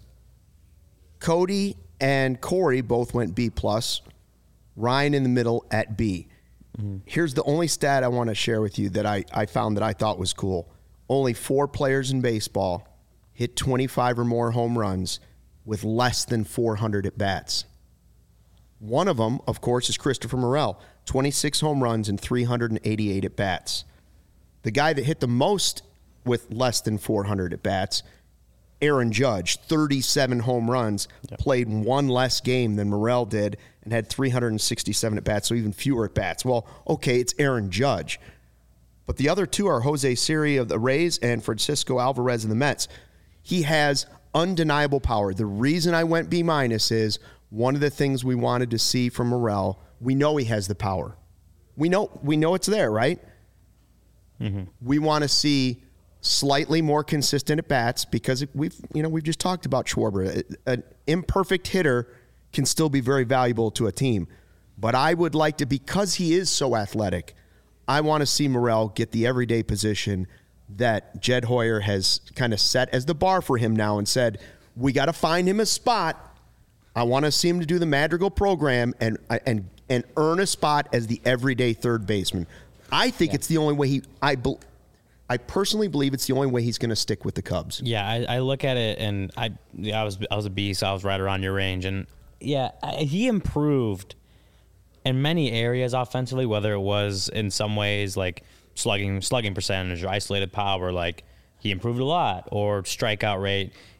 Cody and Corey both went B plus. Ryan in the middle at B. Here's the only stat I want to share with you that I, I found that I thought was cool. Only four players in baseball hit twenty-five or more home runs with less than four hundred at bats. One of them, of course, is Christopher Morel, twenty-six home runs and three hundred eighty-eight at bats. The guy that hit the most with less than four hundred at bats, Aaron Judge, thirty-seven home runs, played one less game than Morel did and had three hundred sixty-seven at bats, so even fewer at bats. Well, okay, it's Aaron Judge. But the other two are Jose Siri of the Rays and Francisco Alvarez of the Mets. He has undeniable power. The reason I went B minus is one of the things we wanted to see from Morel. We know he has the power. We know we know it's there, right? Mm-hmm. We want to see slightly more consistent at bats because we've you know we've just talked about Schwarber. An imperfect hitter can still be very valuable to a team. But I would like to, because he is so athletic, I want to see Morel get the everyday position that Jed Hoyer has kind of set as the bar for him now and said, we got to find him a spot. I want to see him to do the Madrigal program and and and earn a spot as the everyday third baseman. I think yeah. it's the only way he I be, I personally believe it's the only way he's going to stick with the Cubs. Yeah, I, I look at it and I yeah, I was I was a B, so I was right around your range, and yeah, I, he improved in many areas offensively, whether it was in some ways like slugging slugging percentage or isolated power, like he improved a lot, or strikeout rate.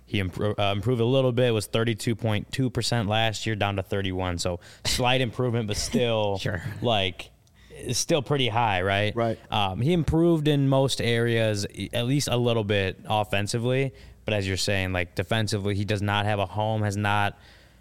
He impro- uh, improved a little bit. It was thirty-two point two percent last year, down to thirty-one. So slight improvement, but still, Sure. like, it's still pretty high, right? Right. Um, he improved in most areas, at least a little bit offensively. But as you're saying, like, defensively, he does not have a home, has not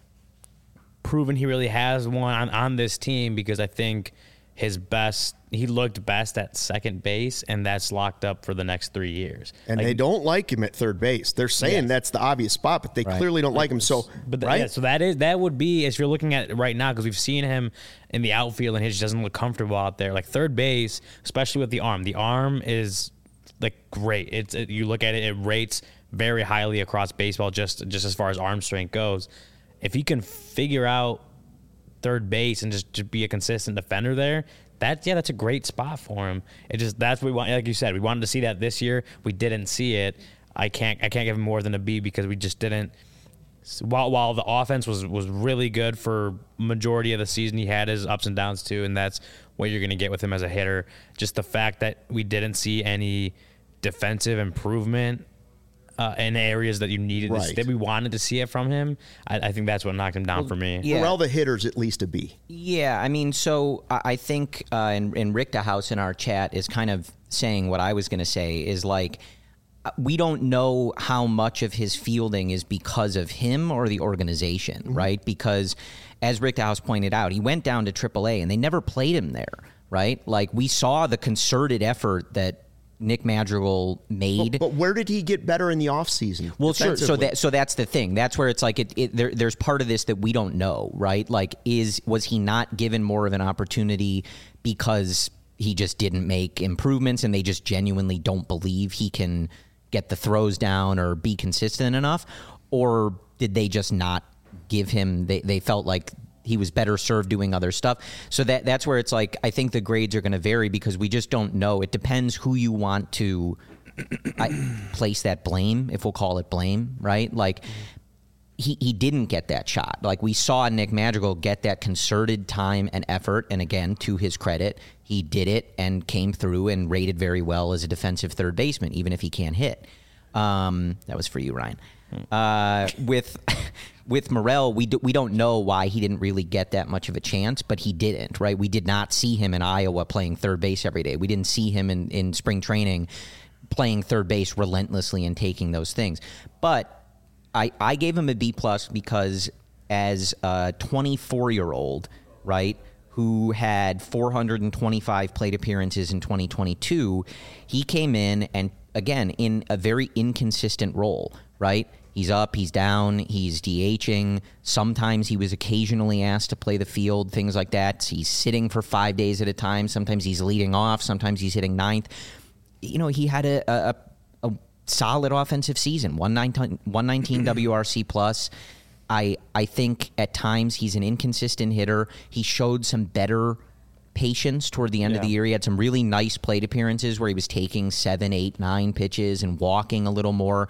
proven he really has one on, on this team, because I think his best, he looked best at second base, and that's locked up for the next three years. And Like, they don't like him at third base. They're saying Yes. that's the obvious spot, but they Right. clearly don't like him. So, But th- right? yeah, so that is that would be, as you're looking at it right now, because we've seen him in the outfield and he just doesn't look comfortable out there. Like third base, especially with the arm, the arm is like great. It's it, you look at it, it rates very highly across baseball, just just as far as arm strength goes. If he can figure out third base and just, just be a consistent defender there, that's yeah, that's a great spot for him. It just that's what we want. Like you said, we wanted to see that this year. We didn't see it. I can't I can't give him more than a B, because we just didn't. While while the offense was was really good for majority of the season, he had his ups and downs too, and that's what you're going to get with him as a hitter. Just the fact that we didn't see any defensive improvement uh, in areas that you needed Right. to, that we wanted to see it from him. I, I think that's what knocked him down for me. yeah. Morel, the hitter's at least a B. Yeah, I mean, so I I think, uh, and, and Rick DeHouse in our chat is kind of saying what I was going to say is like, uh, we don't know how much of his fielding is because of him or the organization, right? Because as Rick DeHouse pointed out, he went down to triple A and they never played him there, right? Like we saw the concerted effort that Nick Madrigal made. But, but where did he get better in the offseason? Well, sure. So defensively? that so that's the thing. That's where it's like it. it there, there's part of this that we don't know, right? Like, is was he not given more of an opportunity because he just didn't make improvements, and they just genuinely don't believe he can get the throws down or be consistent enough, or did they just not give him? They they felt like he was better served doing other stuff. So that that's where it's like, I think the grades are going to vary because we just don't know. It depends who you want to I, place that blame, if we'll call it blame, right? Like he, he didn't get that shot. Like we saw Nick Madrigal get that concerted time and effort. And again, to his credit, he did it and came through and rated very well as a defensive third baseman, even if he can't hit. Um, that was for you, Ryan. Uh, with with Morel, we do, we don't know why he didn't really get that much of a chance, but he didn't, right? We did not see him in Iowa playing third base every day. We didn't see him in, in spring training playing third base relentlessly and taking those things. But I, I gave him a B plus because as a twenty-four-year-old, right, who had four hundred twenty-five plate appearances in twenty twenty-two, he came in and, again, in a very inconsistent role, right? He's up, he's down, he's DHing. Sometimes he was occasionally asked to play the field, things like that. He's sitting for five days at a time. Sometimes he's leading off. Sometimes he's hitting ninth. You know, he had a, a, a solid offensive season, one nineteen W R C plus. I I think at times he's an inconsistent hitter. He showed some better patience toward the end of the year. He had some really nice plate appearances where he was taking seven, eight, nine pitches and walking a little more.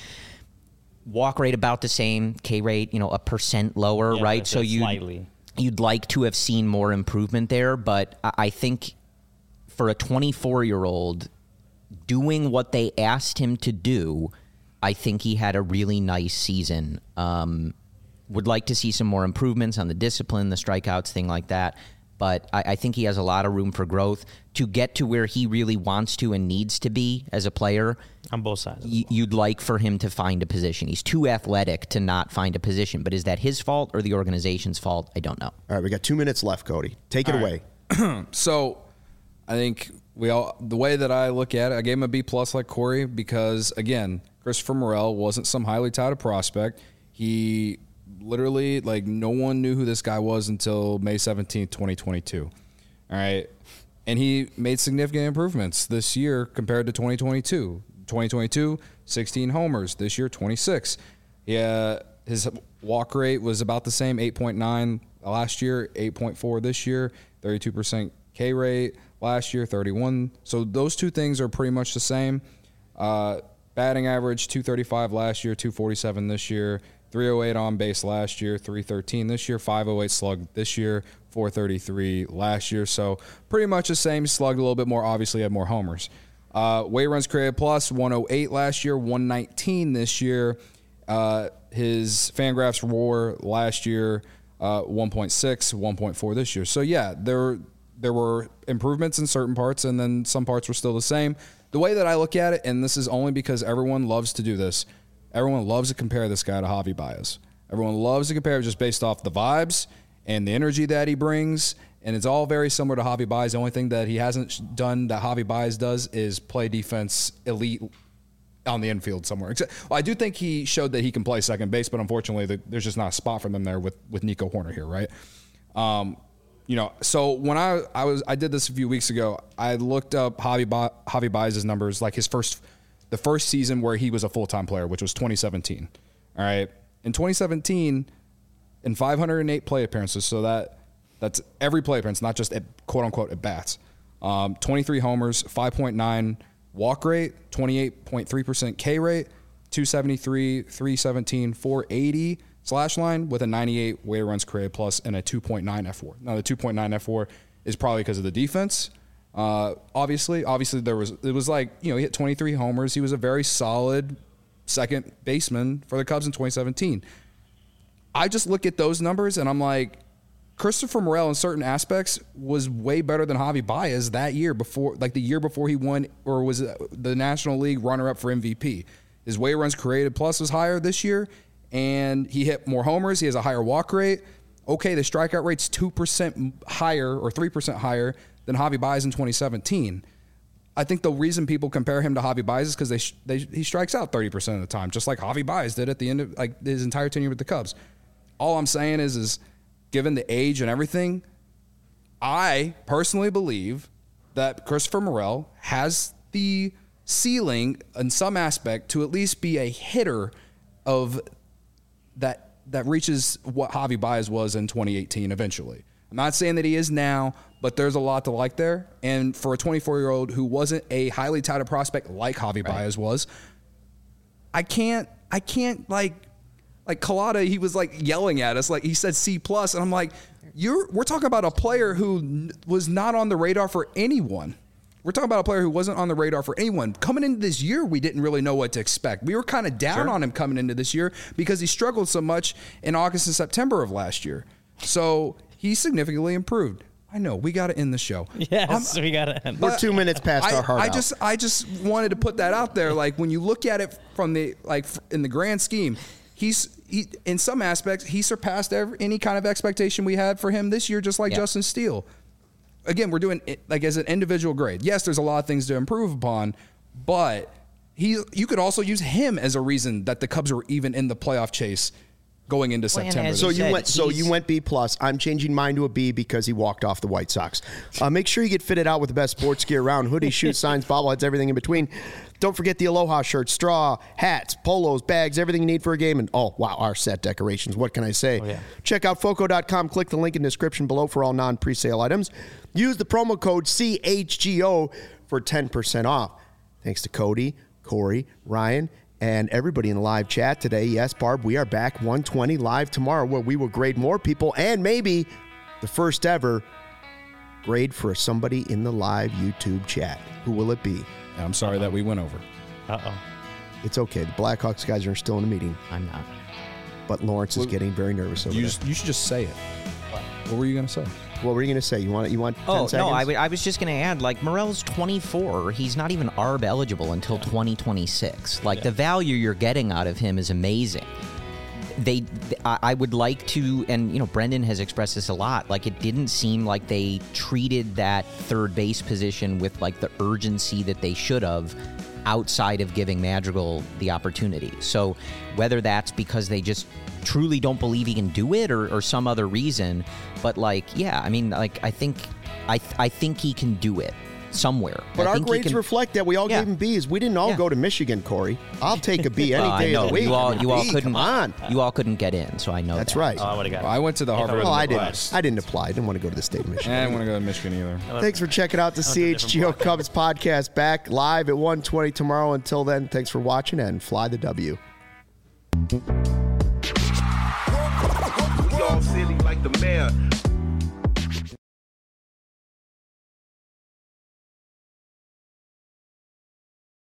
Walk rate about the same, K rate, you know, a percent lower, Yeah, right? that's So it, you slightly. you'd like to have seen more improvement there, but I I think for a twenty-four-year-old doing what they asked him to do, I think he had a really nice season. Um, would like to see some more improvements on the discipline, the strikeouts, thing like that. But I, I think he has a lot of room for growth to get to where he really wants to and needs to be as a player. On both sides. y- You'd like for him to find a position. He's too athletic to not find a position. But is that his fault or the organization's fault? I don't know. All right, we got two minutes left, Cody. Take it All away. right. So I think we all, the way that I look at it, I gave him a B plus like Corey because, again, Christopher Morel wasn't some highly touted prospect. He literally, like, no one knew who this guy was until May seventeenth, twenty twenty-two. All right. And he made significant improvements this year compared to twenty twenty-two. twenty twenty-two, sixteen homers. This year, twenty-six. Yeah, his walk rate was about the same, eight point nine last year, eight point four this year, thirty-two percent K rate last year, thirty-one. So those two things are pretty much the same. Uh, batting average, two thirty-five last year, two forty-seven this year, three oh eight on base last year, three thirteen this year, five oh eight slug this year, four thirty-three last year. So pretty much the same. Slugged a little bit more, obviously had more homers. Uh, weight runs created plus, one oh eight last year, one nineteen this year. Uh, his Fangraphs WAR last year, uh, one point six, one point four this year. So yeah, there there were improvements in certain parts, and then some parts were still the same. The way that I look at it, and this is only because everyone loves to do this, everyone loves to compare this guy to Javi Baez. Everyone loves to compare just based off the vibes and the energy that he brings, and it's all very similar to Javi Baez. The only thing that he hasn't done that Javi Baez does is play defense elite on the infield somewhere. Except, well, I do think he showed that he can play second base, but unfortunately, the, there's just not a spot for them there with with Nico Horner here, right? Um, you know, so when I I was I did this a few weeks ago, I looked up Javi ba- Javi Baez's numbers, like his first the first season where he was a full time player, which was twenty seventeen. All right, in twenty seventeen, in five hundred eight play appearances, so that that's every play appearance, not just at quote unquote at bats. Um, twenty-three homers, five point nine walk rate, twenty-eight point three percent K rate, two seventy-three, three seventeen, four eighty slash line with a ninety-eight weighted runs created plus and a two point nine F four. Now the two point nine F four is probably because of the defense. Uh, obviously, obviously there was it was like, you know, he hit twenty-three homers. He was a very solid second baseman for the Cubs in twenty seventeen. I just look at those numbers and I'm like, Christopher Morel in certain aspects was way better than Javi Baez that year before, like the year before he won or was the National League runner-up for M V P. His weighted runs created plus was higher this year, and he hit more homers. He has a higher walk rate. Okay, the strikeout rate's two percent higher or three percent higher than Javi Baez in twenty seventeen. I think the reason people compare him to Javi Baez is because they, they he strikes out thirty percent of the time, just like Javi Baez did at the end of like his entire tenure with the Cubs. All I'm saying is, is given the age and everything, I personally believe that Christopher Morel has the ceiling in some aspect to at least be a hitter of that that reaches what Javi Baez was in twenty eighteen eventually. I'm not saying that he is now, but there's a lot to like there. And for a twenty-four-year-old who wasn't a highly touted prospect like Javi right. Baez was, I can't I can't like Like Collada, he was like yelling at us, like he said C plus, and I'm like, "You're we're talking about a player who n- was not on the radar for anyone. We're talking about a player who wasn't on the radar for anyone. Coming into this year, we didn't really know what to expect. We were kind of down sure. on him coming into this year because he struggled so much in August and September of last year. So he significantly improved. I know we got to end the show. Yes, um, we got to end. We're two minutes past I, our heart I out. just I just wanted to put that out there. Like when you look at it from the like in the grand scheme. He's he, in some aspects, he surpassed every, any kind of expectation we had for him this year, just like yeah. Justin Steele. Again, we're doing it like as an individual grade. Yes, there's a lot of things to improve upon, but he you could also use him as a reason that the Cubs were even in the playoff chase going into well, September. So you said, went so you went B plus. I'm changing mine to a B because he walked off the White Sox. Uh, make sure you get fitted out with the best sports gear around: hoodies, shoes, signs, bobbleheads, everything in between. Don't forget the Aloha shirts, straw, hats, polos, bags, everything you need for a game. And oh, wow, our set decorations. What can I say? Oh, yeah. Check out Foco dot com. Click the link in the description below for all non-presale items. Use the promo code C H G O for ten percent off. Thanks to Cody, Corey, Ryan, and everybody in the live chat today. Yes, Barb, we are back one twenty live tomorrow where we will grade more people and maybe the first ever grade for somebody in the live YouTube chat. Who will it be? I'm sorry Uh-oh. that we went over. Uh-oh. It's okay. The Blackhawks guys are still in the meeting. I'm not. But Lawrence well, is getting very nervous over you there. Just, you should just say it. What, what were you going to say? What were you going to say? You want you want ten Oh, seconds? no, I, w- I was just going to add, like, Morel's twenty-four. He's not even A R B eligible until twenty twenty-six. Like, yeah. the value you're getting out of him is amazing. They, I, I would like to, and, you know, Brendan has expressed this a lot, like, it didn't seem like they treated that third base position with, like, the urgency that they should have outside of giving Madrigal the opportunity. So whether that's because they just truly don't believe he can do it or, or some other reason, but like, yeah, I mean, like, I think, I, th- I think he can do it somewhere. But I our think grades can, reflect that. We all yeah. gave him B's. We didn't all yeah. go to Michigan, Corey. I'll take a B any well, day I know. of the week. You all, you all B, couldn't. Come on. You all couldn't get in, so I know That's that. right. Oh, I would have got it. Well, I went to the Harvard. Well, I didn't. West. I didn't apply. I didn't want to go to the state of Michigan. I didn't want to go to Michigan either. Thanks for checking out the C H G O Cubs podcast. Back live at one twenty tomorrow. Until then, thanks for watching and fly the W. We all silly like the mayor.